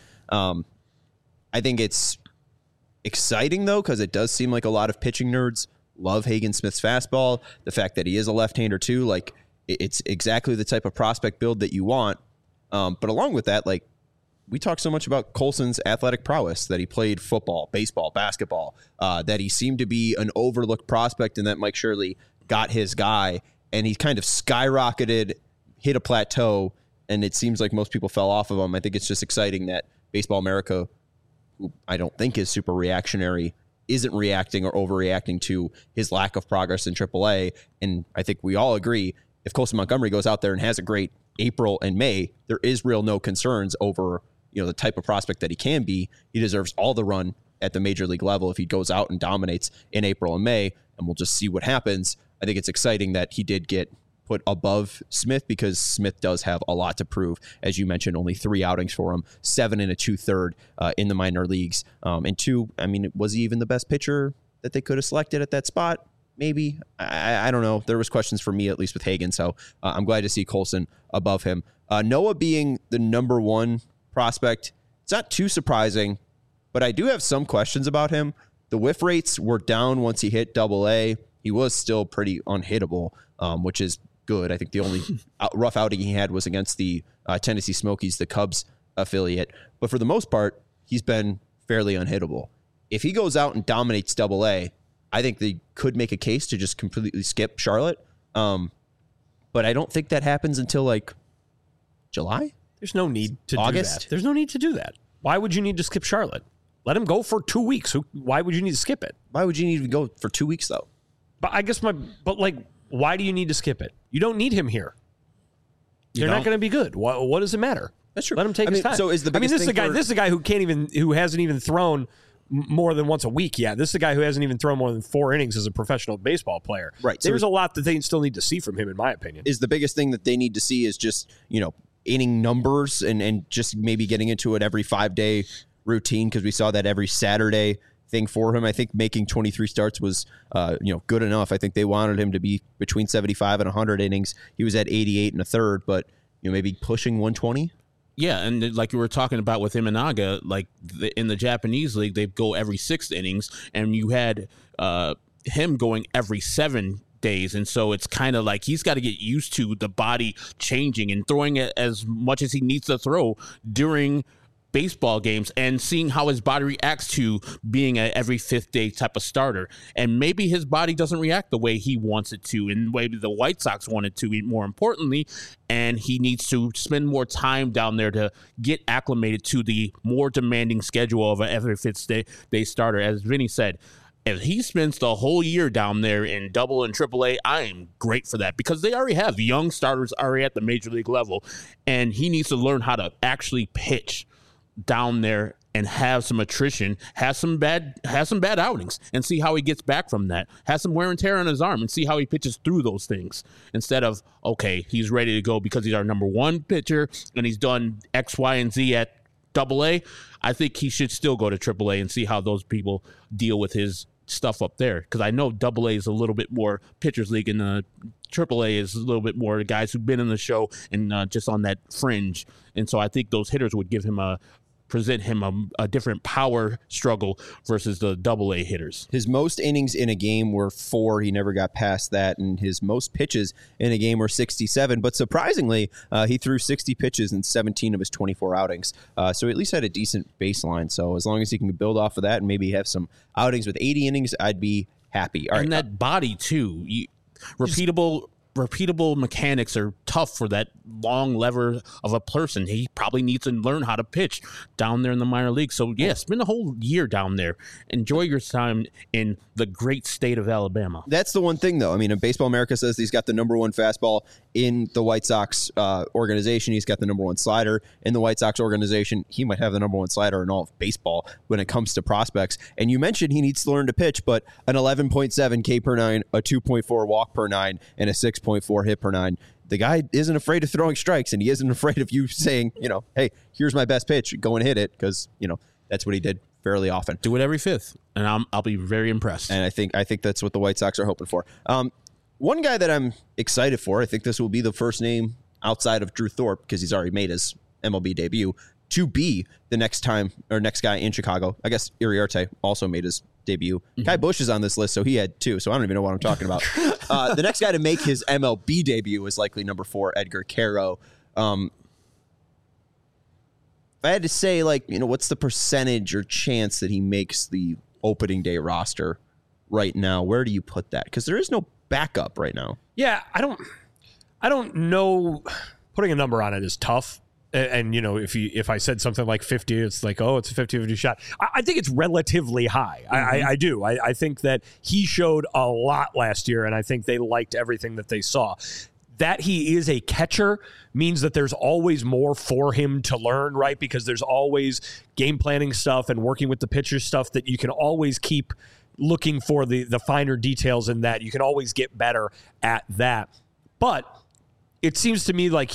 I think it's exciting, though, because it does seem like a lot of pitching nerds love Hagen Smith's fastball. The fact that he is a left-hander, too, like, it's exactly the type of prospect build that you want. But along with that, like, we talk so much about Colson's athletic prowess, that he played football, baseball, basketball, that he seemed to be an overlooked prospect and that Mike Shirley got his guy, and he kind of skyrocketed, hit a plateau, and it seems like most people fell off of him. I think it's just exciting that Baseball America, who I don't think is super reactionary, isn't reacting or overreacting to his lack of progress in AAA. And I think we all agree, if Colson Montgomery goes out there and has a great April and May, there is no concerns over the type of prospect that he can be. He deserves all the run at the major league level if he goes out and dominates in April and May, and we'll just see what happens. I think it's exciting that he did get put above Smith, because Smith does have a lot to prove. As you mentioned, only 3 outings for him, 7 and a 2/3 in the minor leagues. And 2, I mean, was he even the best pitcher that they could have selected at that spot? Maybe. I don't know. There was questions for me, at least with Hagen, so I'm glad to see Colson above him. Noah being the number 1 prospect, it's not too surprising, but I do have some questions about him. The whiff rates were down once he hit AA. He was still pretty unhittable, which is good. I think the only rough outing he had was against the Tennessee Smokies, the Cubs affiliate. But for the most part, he's been fairly unhittable. If he goes out and dominates AA, I think they could make a case to just completely skip Charlotte. But I don't think that happens until like July. There's no need to August? do that. There's no need to do that. Why would you need to skip Charlotte? Let him go for 2 weeks. Why would you need to skip it? Why would you need to go for 2 weeks, though? But I guess why do you need to skip it? You don't need him here. They're not going to be good. What does it matter? That's true. Let him take his time. So is the biggest this is a guy who hasn't even thrown more than once a week yet. This is a guy who hasn't even thrown more than 4 innings as a professional baseball player. Right. There's a lot that they still need to see from him, in my opinion. Is the biggest thing that they need to see is just, inning numbers and just maybe getting into it every 5-day routine, because we saw that every Saturday thing for him. I think making 23 starts was, good enough. I think they wanted him to be between 75 and 100 innings. He was at 88 1/3, but maybe pushing 120. Yeah, and like you were talking about with Imanaga, like in the Japanese league, they go every 6 innings, and you had him going every 7 days. And so it's kind of like he's got to get used to the body changing and throwing it as much as he needs to throw during baseball games and seeing how his body reacts to being a every fifth day type of starter. And maybe his body doesn't react the way he wants it to, and the way the White Sox want it to, more importantly. And he needs to spend more time down there to get acclimated to the more demanding schedule of an every fifth day starter. As Vinny said, if he spends the whole year down there in Double and Triple A, I am great for that, because they already have young starters already at the major league level, and he needs to learn how to actually pitch down there and have some attrition, have some bad outings, and see how he gets back from that. Have some wear and tear on his arm and see how he pitches through those things, instead of, okay, he's ready to go because he's our number one pitcher and he's done X, Y, and Z at Double A. I think he should still go to Triple A and see how those people deal with his stuff up there, because I know Double A is a little bit more pitchers league, and Triple A is a little bit more guys who've been in the show and just on that fringe. And so I think those hitters would present him a different power struggle versus the Double A hitters. His most innings in a game were 4. He never got past that. And his most pitches in a game were 67. But surprisingly, he threw 60 pitches in 17 of his 24 outings. So he at least had a decent baseline. So as long as he can build off of that and maybe have some outings with 80 innings, I'd be happy. All right. And that body, too. Repeatable mechanics are tough for that long lever of a person. He probably needs to learn how to pitch down there in the minor league. So, yeah, spend a whole year down there. Enjoy your time in the great state of Alabama. That's the one thing, though. I mean, Baseball America says he's got the number one fastball in the White Sox organization. He's got the number one slider in the White Sox organization. He might have the number one slider in all of baseball when it comes to prospects. And you mentioned he needs to learn to pitch, but an 11.7 K per 9, a 2.4 walk per 9, and a 6.4 hit per 9. The guy isn't afraid of throwing strikes, and he isn't afraid of you saying, hey, here's my best pitch, go and hit it, because, that's what he did fairly often. Do it every fifth, and I'll be very impressed. And I think that's what the White Sox are hoping for. One guy that I'm excited for, I think this will be the first name outside of Drew Thorpe, because he's already made his MLB debut, to be the next guy in Chicago. I guess Iriarte also made his debut. Mm-hmm. Kai Busch is on this list, so he had 2, so I don't even know what I'm talking about. The next guy to make his MLB debut is likely number 4, Edgar Quero. If I had to say, what's the percentage or chance that he makes the opening day roster right now, where do you put that? Because there is no backup right now. Yeah, I don't know. Putting a number on it is tough. And if I said something like 50, it's like, oh, it's a 50-50 shot. I think it's relatively high. Mm-hmm. I do. I think that he showed a lot last year, and I think they liked everything that they saw. That he is a catcher means that there's always more for him to learn, right? Because there's always game planning stuff and working with the pitcher stuff that you can always keep looking for the finer details in that. You can always get better at that. But it seems to me like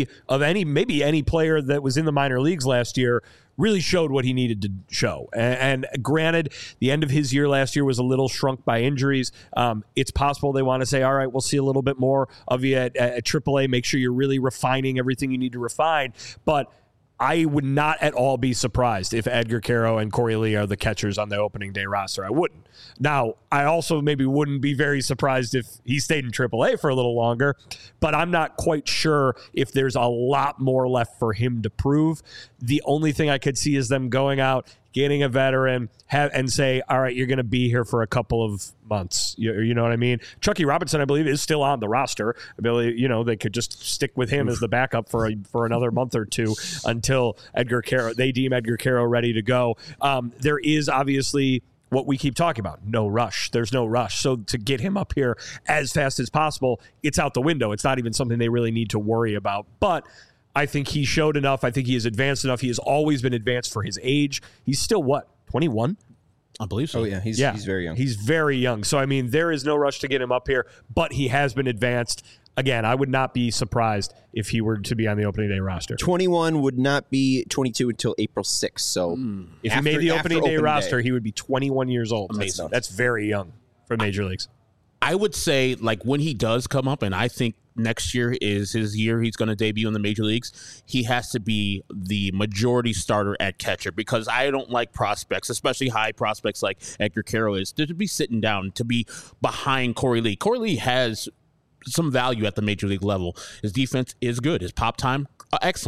maybe any player that was in the minor leagues last year really showed what he needed to show. And granted, the end of his year last year was a little shrunk by injuries. It's possible they want to say, all right, we'll see a little bit more of you at AAA. Make sure you're really refining everything you need to refine. But I would not at all be surprised if Edgar Quero and Corey Lee are the catchers on the opening day roster. I wouldn't. Now, I also maybe wouldn't be very surprised if he stayed in AAA for a little longer, but I'm not quite sure if there's a lot more left for him to prove. The only thing I could see is them going out, getting a veteran, and say, all right, you're going to be here for a couple of months. You know what I mean? Chucky Robinson, I believe, is still on the roster. I believe, they could just stick with him as the backup for another month or two until they deem Edgar Quero ready to go. There is obviously what we keep talking about, no rush. There's no rush. So to get him up here as fast as possible, it's out the window. It's not even something they really need to worry about. But I think he showed enough. I think he is advanced enough. He has always been advanced for his age. He's still, 21? I believe so. Oh, yeah. He's very young. He's very young. So, I mean, there is no rush to get him up here, but he has been advanced. Again, I would not be surprised if he were to be on the opening day roster. 21 would not be 22 until April 6th. So if he made the opening day roster, he would be 21 years old. Amazing. That's very young for major leagues. I would say, when he does come up, and I think next year is his year he's going to debut in the major leagues, he has to be the majority starter at catcher, because I don't like prospects, especially high prospects like Edgar Quero is, to be sitting down, to be behind Corey Lee. Corey Lee has some value at the major league level. His defense is good. His pop time, excellent.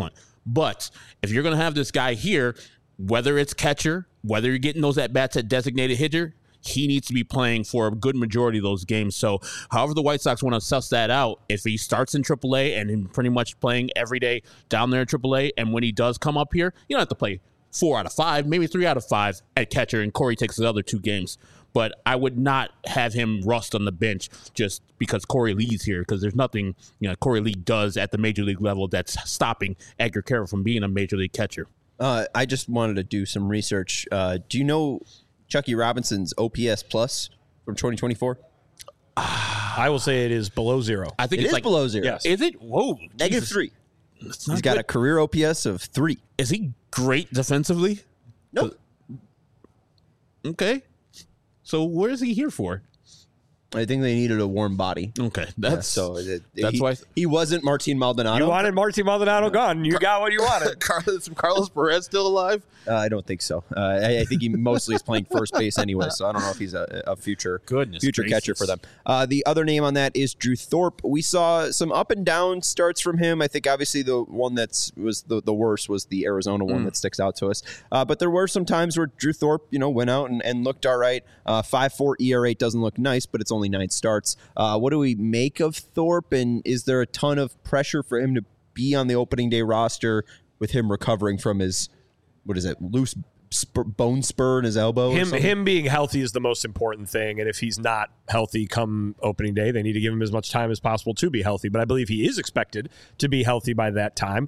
But if you're going to have this guy here, whether it's catcher, whether you're getting those at-bats at designated hitter, he needs to be playing for a good majority of those games. So however the White Sox want to suss that out, if he starts in AAA and he's pretty much playing every day down there in AAA, and when he does come up here, you don't have to play 4 out of 5, maybe 3 out of 5 at catcher, and Corey takes the other 2 games. But I would not have him rust on the bench just because Corey Lee's here, because there's nothing Corey Lee does at the major league level that's stopping Edgar Carroll from being a major league catcher. I just wanted to do some research. Do you know Chucky Robinson's OPS plus from 2024? I will say it is below 0. I think It it's is like below 0. Yes. Is it? Whoa, Negative Jesus. 3. It's not He's got good. a career OPS of 3. Is he great defensively? Nope. Okay. So where is he here for? I think they needed a warm body. Okay, That's that's why he wasn't Martin Maldonado. You wanted Martin Maldonado gone. You got what you wanted. Carlos Perez still alive? I don't think so. I think he mostly is playing first base anyway, so I don't know if he's a future Goodness catcher for gracious. them. The other name on that is Drew Thorpe. We saw some up and down starts from him. I think obviously the one that was the worst was the Arizona one that sticks out to us. But there were some times where Drew Thorpe, went out and looked all right. 5.4 ERA doesn't look nice, but it's only 9 starts. What do we make of Thorpe, and is there a ton of pressure for him to be on the opening day roster with him recovering from his loose bone spur in his elbow? Him being healthy is the most important thing, and if he's not healthy come opening day, they need to give him as much time as possible to be healthy. But I believe he is expected to be healthy by that time.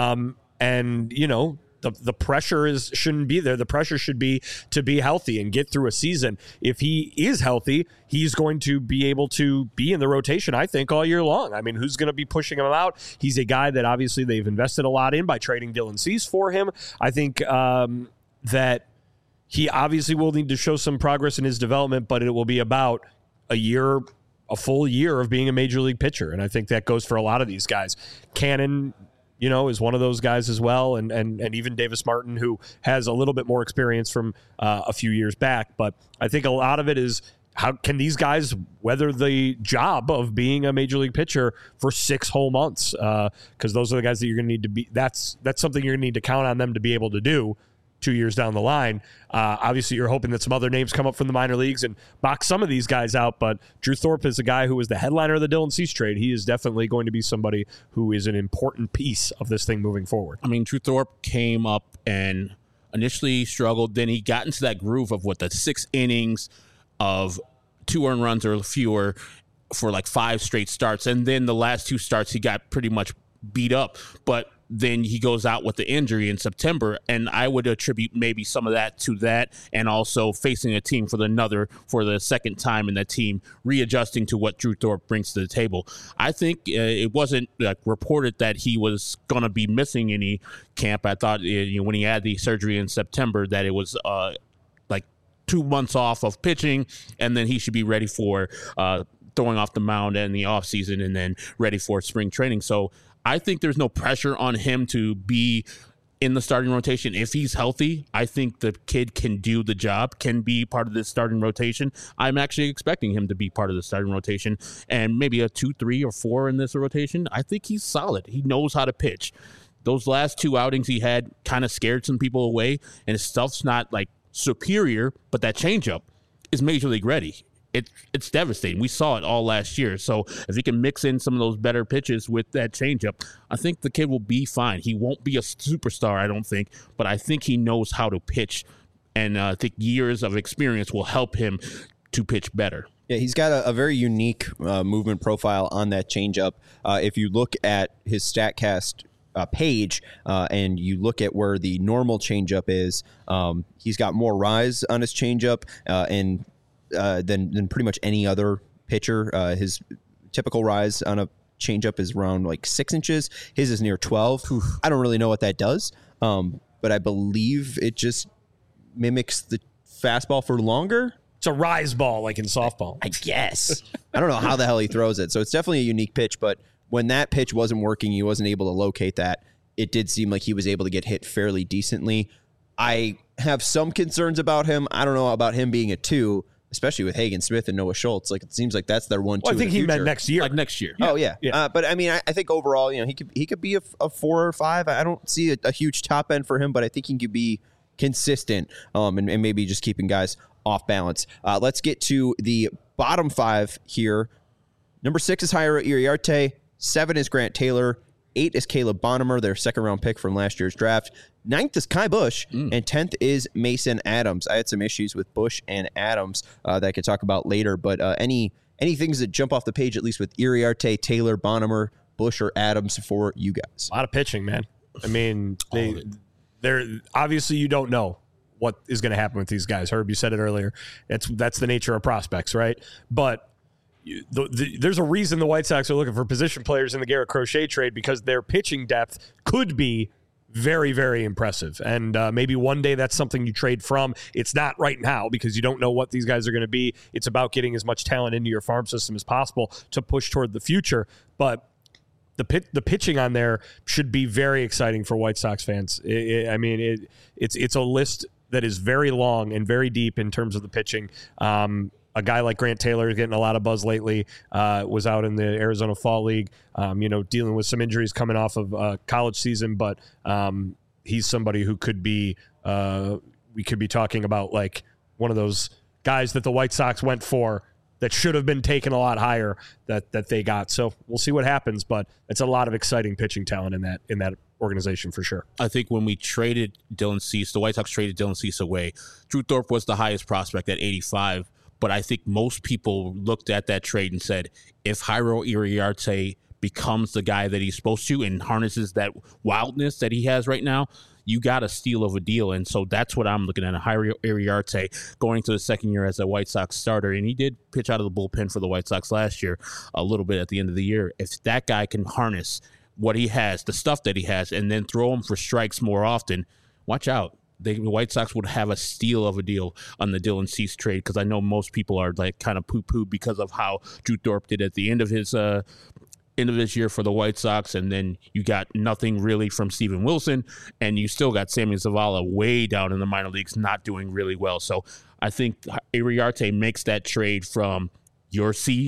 The pressure shouldn't be there. The pressure should be to be healthy and get through a season. If he is healthy, he's going to be able to be in the rotation, I think, all year long. I mean, who's going to be pushing him out? He's a guy that obviously they've invested a lot in by trading Dylan Cease for him. I think that he obviously will need to show some progress in his development, but it will be about a full year of being a major league pitcher. And I think that goes for a lot of these guys. Cannon, is one of those guys as well, and even Davis Martin, who has a little bit more experience from a few years back. But I think a lot of it is how can these guys weather the job of being a major league pitcher for 6 whole months? Because those are the guys that you're going to need to be. That's something you're going to need to count on them to be able to do 2 years down the line. Obviously, you're hoping that some other names come up from the minor leagues and box some of these guys out, but Drew Thorpe is a guy who was the headliner of the Dylan Cease trade. He is definitely going to be somebody who is an important piece of this thing moving forward. I mean, Drew Thorpe came up and initially struggled. Then he got into that groove of the 6 innings of 2 earned runs or fewer for like 5 straight starts. And then the last 2 starts, he got pretty much beat up. But then he goes out with the injury in September, and I would attribute maybe some of that to that, and also facing a team for the second time in that team, readjusting to what Drew Thorpe brings to the table. I think it wasn't reported that he was going to be missing any camp. I thought when he had the surgery in September that it was 2 months off of pitching, and then he should be ready for throwing off the mound in the offseason and then ready for spring training. So I think there's no pressure on him to be in the starting rotation. If he's healthy, I think the kid can do the job, can be part of this starting rotation. I'm actually expecting him to be part of the starting rotation, and maybe a 2, 3, or 4 in this rotation. I think he's solid. He knows how to pitch. Those last 2 outings he had kind of scared some people away, and his stuff's not superior, but that changeup is major league ready. It's devastating. We saw it all last year. So if he can mix in some of those better pitches with that changeup, I think the kid will be fine. He won't be a superstar, I don't think, but I think he knows how to pitch, and I think years of experience will help him to pitch better. Yeah, he's got a very unique movement profile on that changeup. If you look at his StatCast page and you look at where the normal changeup is, he's got more rise on his changeup than pretty much any other pitcher. His typical rise on a changeup is around 6 inches. His is near 12. I don't really know what that does, but I believe it just mimics the fastball for longer. It's a rise ball like in softball. I guess. I don't know how the hell he throws it. So it's definitely a unique pitch, but when that pitch wasn't working, he wasn't able to locate that. It did seem like he was able to get hit fairly decently. I have some concerns about him. I don't know about him being a 2, especially with Hagen Smith and Noah Schultz. Like, it seems like that's their 1-2. Well, I think he meant next year. Like next year. Oh yeah. But I mean, I think overall, he could be a 4 or 5. I don't see a huge top end for him, but I think he could be consistent, and maybe just keeping guys off balance. Let's get to the bottom 5 here. Number 6 is Jairo Iriarte. 7 is Grant Taylor. 8 is Caleb Bonnemer, their second-round pick from last year's draft. 9th is Kai Bush, and 10th is Mason Adams. I had some issues with Bush and Adams that I could talk about later, but any things that jump off the page, at least with Iriarte, Taylor, Bonnemer, Bush, or Adams for you guys? A lot of pitching, man. I mean, they're obviously, you don't know what is going to happen with these guys. Herb, you said it earlier. That's the nature of prospects, right? But there's a reason the White Sox are looking for position players in the Garrett Crochet trade, because their pitching depth could be very, very impressive. And maybe one day that's something you trade from. It's not right now because you don't know what these guys are going to be. It's about getting as much talent into your farm system as possible to push toward the future. But the pitching on there should be very exciting for White Sox fans. It's a list that is very long and very deep in terms of the pitching. A guy like Grant Taylor is getting a lot of buzz lately, was out in the Arizona Fall League, dealing with some injuries coming off of college season, but he's somebody who could be, we could be talking about like one of those guys that the White Sox went for that should have been taken a lot higher that they got. So we'll see what happens, but it's a lot of exciting pitching talent in that organization for sure. I think when we traded Dylan Cease, the White Sox traded Dylan Cease away, Drew Thorpe was the highest prospect at 85. But I think most people looked at that trade and said, if Jairo Iriarte becomes the guy that he's supposed to and harnesses that wildness that he has right now, you got a steal of a deal. And so that's what I'm looking at, a Jairo Iriarte going to the second year as a White Sox starter. And he did pitch out of the bullpen for the White Sox last year a little bit at the end of the year. If that guy can harness what he has, the stuff that he has, and then throw him for strikes more often, watch out. The White Sox would have a steal of a deal on the Dylan Cease trade, because I know most people are like kind of poo-poo because of how Drew Thorpe did at the end of his year for the White Sox, and then you got nothing really from Steven Wilson, and you still got Sammy Zavala way down in the minor leagues, not doing really well. So I think Iriarte makes that trade from your C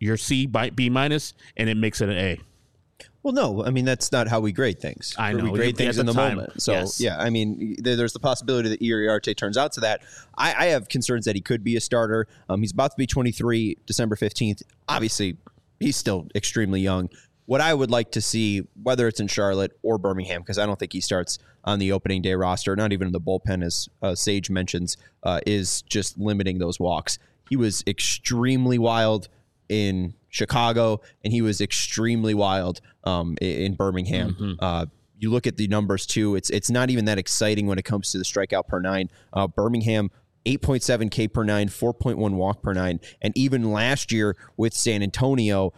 by B minus, and it makes it an A. Well, no, I mean, that's not how we grade things. I know. We grade things in the moment. So, yes. Yeah, I mean, there's the possibility that Iriarte turns out to that. I have concerns that he could be a starter. He's about to be 23 December 15th. Obviously, he's still extremely young. What I would like to see, whether it's in Charlotte or Birmingham, because I don't think he starts on the opening day roster, not even in the bullpen, as Sage mentions, is just limiting those walks. He was extremely wild in Chicago, and he was extremely wild in Birmingham. Mm-hmm. You look at the numbers too. It's not even that exciting when it comes to the strikeout per nine. Birmingham, 8.7 K per nine, 4.1 walk per nine, and even last year with San Antonio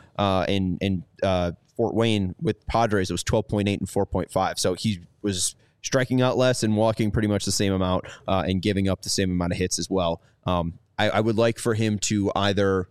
and Fort Wayne with Padres, it was 12.8 and 4.5. So he was striking out less and walking pretty much the same amount and giving up the same amount of hits as well. I would like for him to either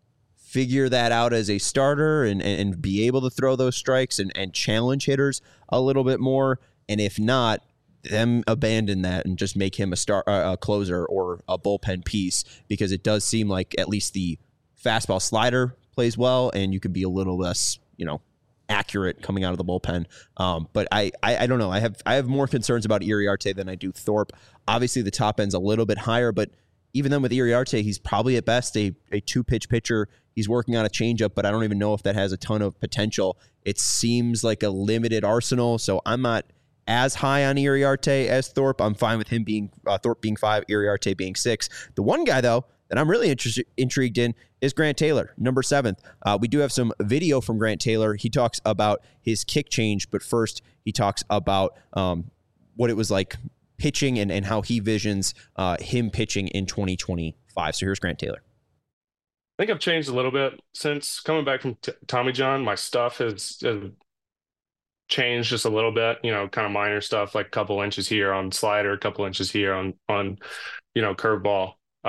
figure that out as a starter and be able to throw those strikes and challenge hitters a little bit more. And if not, them abandon that and just make him a closer or a bullpen piece, because it does seem like at least the fastball slider plays well and you can be a little less, accurate coming out of the bullpen. But I don't know. I have more concerns about Iriarte than I do Thorpe. Obviously the top end's a little bit higher, but even then with Iriarte, he's probably at best a two-pitch pitcher. He's working on a changeup, but I don't even know if that has a ton of potential. It seems like a limited arsenal, so I'm not as high on Iriarte as Thorpe. I'm fine with him being Thorpe being 5, Iriarte being 6. The one guy, though, that I'm really intrigued in is Grant Taylor, number 7th. We do have some video from Grant Taylor. He talks about his kick change, but first he talks about what it was like pitching and how he visions him pitching in 2025. So here's Grant Taylor. I think I've changed a little bit since coming back from Tommy John. My stuff has changed just a little bit, kind of minor stuff, like a couple inches here on slider, a couple inches here on curveball.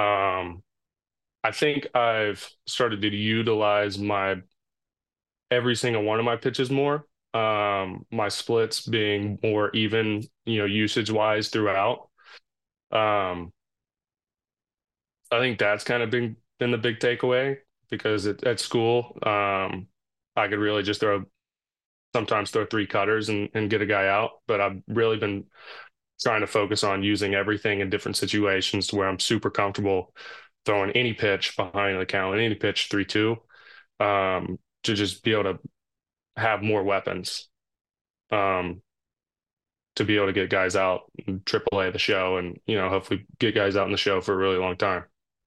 I think I've started to utilize every single one of my pitches more. My splits being more even, usage wise throughout. I think that's kind of been the big takeaway because at school, I could really just sometimes throw three cutters and get a guy out. But I've really been trying to focus on using everything in different situations to where I'm super comfortable throwing any pitch behind the count, any pitch 3-2, to just be able to have more weapons, to be able to get guys out in AAA the show and, hopefully get guys out in the show for a really long time.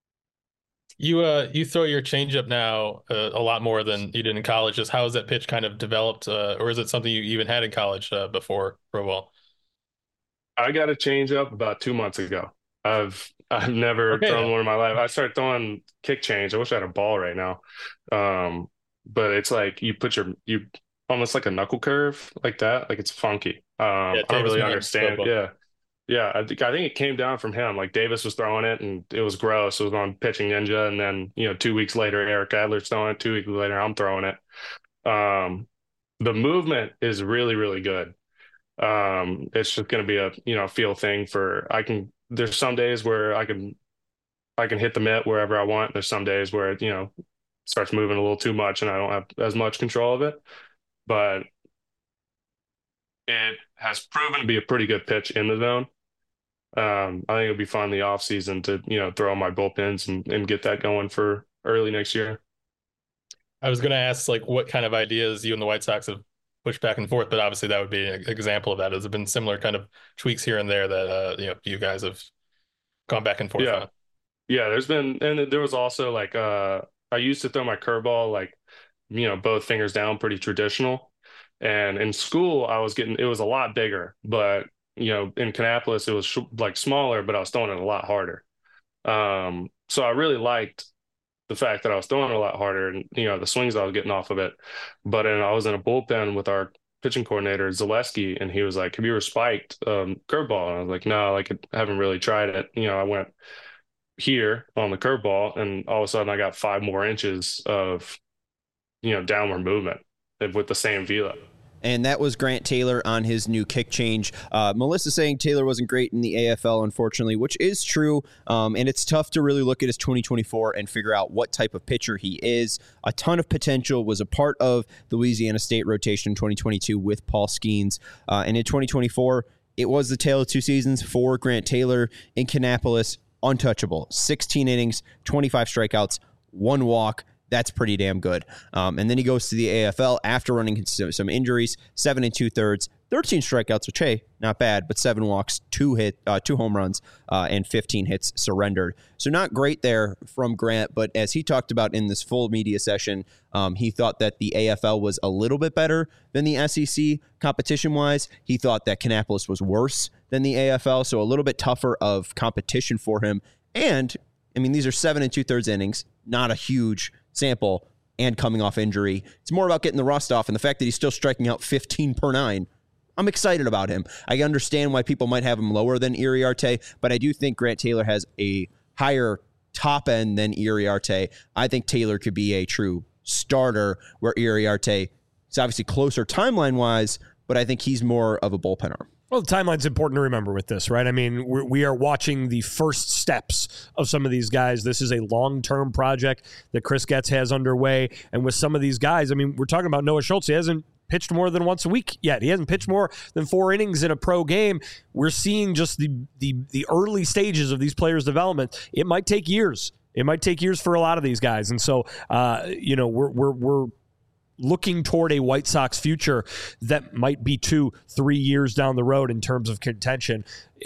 You throw your changeup now a lot more than you did in college. Just how has that pitch kind of developed, or is it something you even had in college before pro ball? I got a changeup about 2 months ago. I've never thrown one in my life. I started throwing kick change. I wish I had a ball right now, but it's like you almost like a knuckle curve like that. Like it's funky. I don't really understand. Yeah. I think it came down from him. Like Davis was throwing it and it was gross. It was on Pitching Ninja. And then, 2 weeks later, Eric Adler's throwing it. 2 weeks later, I'm throwing it. The movement is really, really good. It's just going to be a, feel thing there's some days where I can hit the mitt wherever I want. There's some days where it, starts moving a little too much and I don't have as much control of it, but it has proven to be a pretty good pitch in the zone. I think it'll be fun in the off season to, throw on my bullpens and get that going for early next year. I was going to ask what kind of ideas you and the White Sox have pushed back and forth, but obviously that would be an example of that. Has it been similar kind of tweaks here and there that, you guys have gone back and forth on? Yeah, there was also I used to throw my curveball, both fingers down, pretty traditional. And in school, it was a lot bigger, but in Kannapolis, it was smaller, but I was throwing it a lot harder. So I really liked the fact that I was throwing it a lot harder and, the swings I was getting off of it. But I was in a bullpen with our pitching coordinator, Zaleski, and he was like, "Have you ever spiked curveball?" And I was like, "No, I haven't really tried it." I went here on the curveball and all of a sudden I got 5 more inches of, downward movement with the same velo. And that was Grant Taylor on his new kick change. Melissa saying Taylor wasn't great in the AFL, unfortunately, which is true. And it's tough to really look at his 2024 and figure out what type of pitcher he is. A ton of potential, was a part of the Louisiana State rotation in 2022 with Paul Skeens. And in 2024, it was the tale of two seasons for Grant Taylor in Kannapolis. Untouchable. 16 innings, 25 strikeouts, 1 walk. That's pretty damn good. And then he goes to the AFL after running some injuries, 7 2/3, 13 strikeouts, which, hey, not bad, but 7 walks, 2 home runs, and 15 hits surrendered. So not great there from Grant, but as he talked about in this full media session, he thought that the AFL was a little bit better than the SEC competition-wise. He thought that Kannapolis was worse than the AFL, so a little bit tougher of competition for him. And, I mean, these are 7 2/3 innings, not a huge sample, and coming off injury. It's more about getting the rust off, and the fact that he's still striking out 15 per 9. I'm excited about him. I understand why people might have him lower than Iriarte, but I do think Grant Taylor has a higher top end than Iriarte. I think Taylor could be a true starter, where Iriarte is obviously closer timeline-wise, but I think he's more of a bullpen arm. Well, the timeline's important to remember with this, right? I mean, we are watching the first steps of some of these guys. This is a long-term project that Chris Getz has underway. And with some of these guys, I mean, we're talking about Noah Schultz. He hasn't pitched more than once a week yet. He hasn't pitched more than 4 innings in a pro game. We're seeing just the early stages of these players' development. It might take years. It might take years for a lot of these guys. And so, we're looking toward a White Sox future that might be 2-3 years down the road in terms of contention.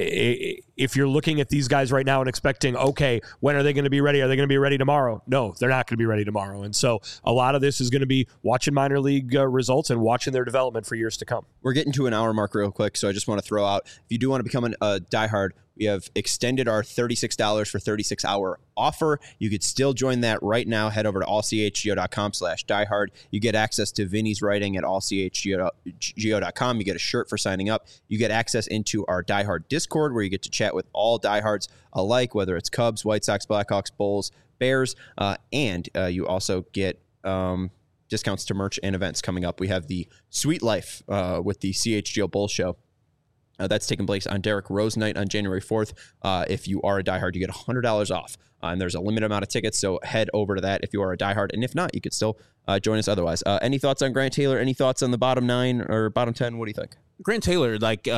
If you're looking at these guys right now and expecting, okay, when are they going to be ready? Are they going to be ready tomorrow? No, they're not going to be ready tomorrow. And so a lot of this is going to be watching minor league results and watching their development for years to come. We're getting to an hour mark real quick, so I just want to throw out, if you do want to become a diehard, we have extended our $36 for 36-hour offer. You could still join that right now. Head over to allchgo.com/diehard. You get access to Vinny's writing at allchgo.com. You get a shirt for signing up. You get access into our diehard Discord, where you get to chat with all diehards alike, whether it's Cubs, White Sox, Blackhawks, Bulls, Bears, and you also get discounts to merch and events coming up. We have the Sweet Life with the CHGO Bulls show. That's taking place on Derrick Rose night on January 4th. If you are a diehard, you get $100 off and there's a limited amount of tickets, so head over to that if you are a diehard. And if not, you could still join us otherwise. Any thoughts on Grant Taylor? Any thoughts on the bottom 9 or bottom 10? What do you think? Grant Taylor,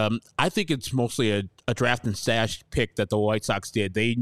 I think it's mostly a draft and stash pick that the White Sox did. They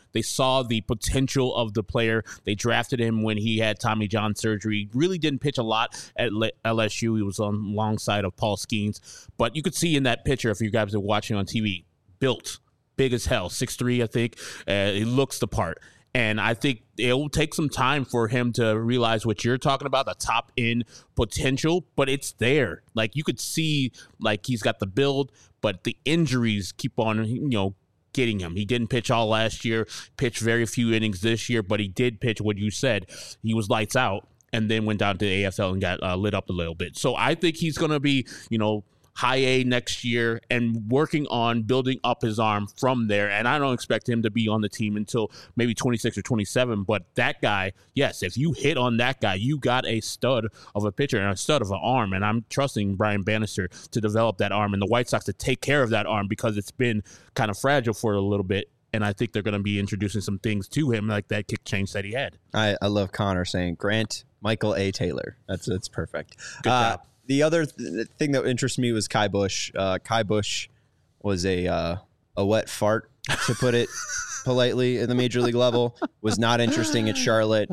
saw the potential of the player. They drafted him when he had Tommy John surgery. Really didn't pitch a lot at LSU. He was on alongside of Paul Skeens. But you could see in that picture, if you guys are watching on TV, built, big as hell, 6'3", I think. He looks the part. And I think it will take some time for him to realize what you're talking about, the top end potential, but it's there. Like, you could see, like, he's got the build, but the injuries keep on, getting him. He didn't pitch all last year, pitched very few innings this year, but he did pitch what you said. He was lights out and then went down to the AFL and got lit up a little bit. So I think he's going to be, high A next year and working on building up his arm from there. And I don't expect him to be on the team until maybe 26 or 27. But that guy, yes, if you hit on that guy, you got a stud of a pitcher and a stud of an arm. And I'm trusting Brian Bannister to develop that arm and the White Sox to take care of that arm because it's been kind of fragile for a little bit. And I think they're going to be introducing some things to him like that kick change that he had. I love Connor saying Grant Michael A. Taylor. That's perfect. Good job. The other thing that interests me was Ky Bush. Ky Bush was a wet fart, to put it politely, at the major league level. Was not interesting at Charlotte.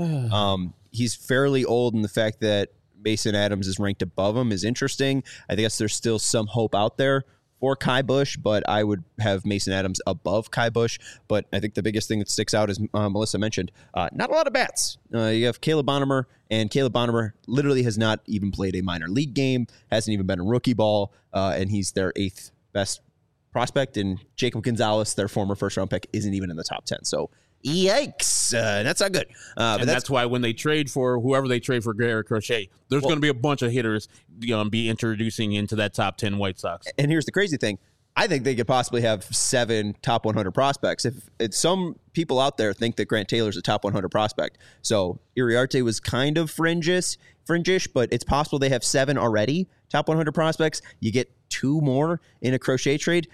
He's fairly old, and the fact that Mason Adams is ranked above him is interesting. I guess there's still some hope out there for Ky Bush, but I would have Mason Adams above Ky Bush. But I think the biggest thing that sticks out, as Melissa mentioned, not a lot of bats. You have Caleb Bonham, and Caleb Bonham literally has not even played a minor league game, hasn't even been in rookie ball, and he's their 8th best prospect. And Jacob Gonzalez, their former first-round pick, isn't even in the top 10. So yikes, that's not good. But that's why when they trade for whoever they trade for Garrett Crochet, there's going to be a bunch of hitters be introducing into that top 10 White Sox. And here's the crazy thing. I think they could possibly have 7 top 100 prospects. If some people out there think that Grant Taylor's a top 100 prospect. So Iriarte was kind of fringish, but it's possible they have 7 already top 100 prospects. You get 2 more in a Crochet trade.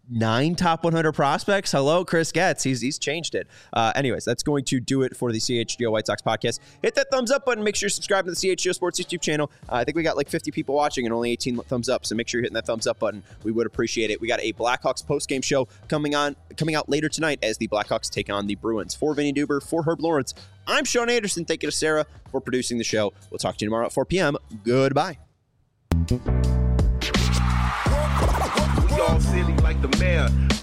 9 top 100 prospects. Hello, Chris Getz. He's changed it. Anyways, that's going to do it for the CHGO White Sox podcast. Hit that thumbs up button. Make sure you subscribe to the CHGO Sports YouTube channel. I think we got like 50 people watching and only 18 thumbs up. So make sure you're hitting that thumbs up button. We would appreciate it. We got a Blackhawks postgame show coming out later tonight as the Blackhawks take on the Bruins. For Vinny Duber, for Herb Lawrence, I'm Sean Anderson. Thank you to Sarah for producing the show. We'll talk to you tomorrow at 4 p.m. Goodbye. All silly like the mayor.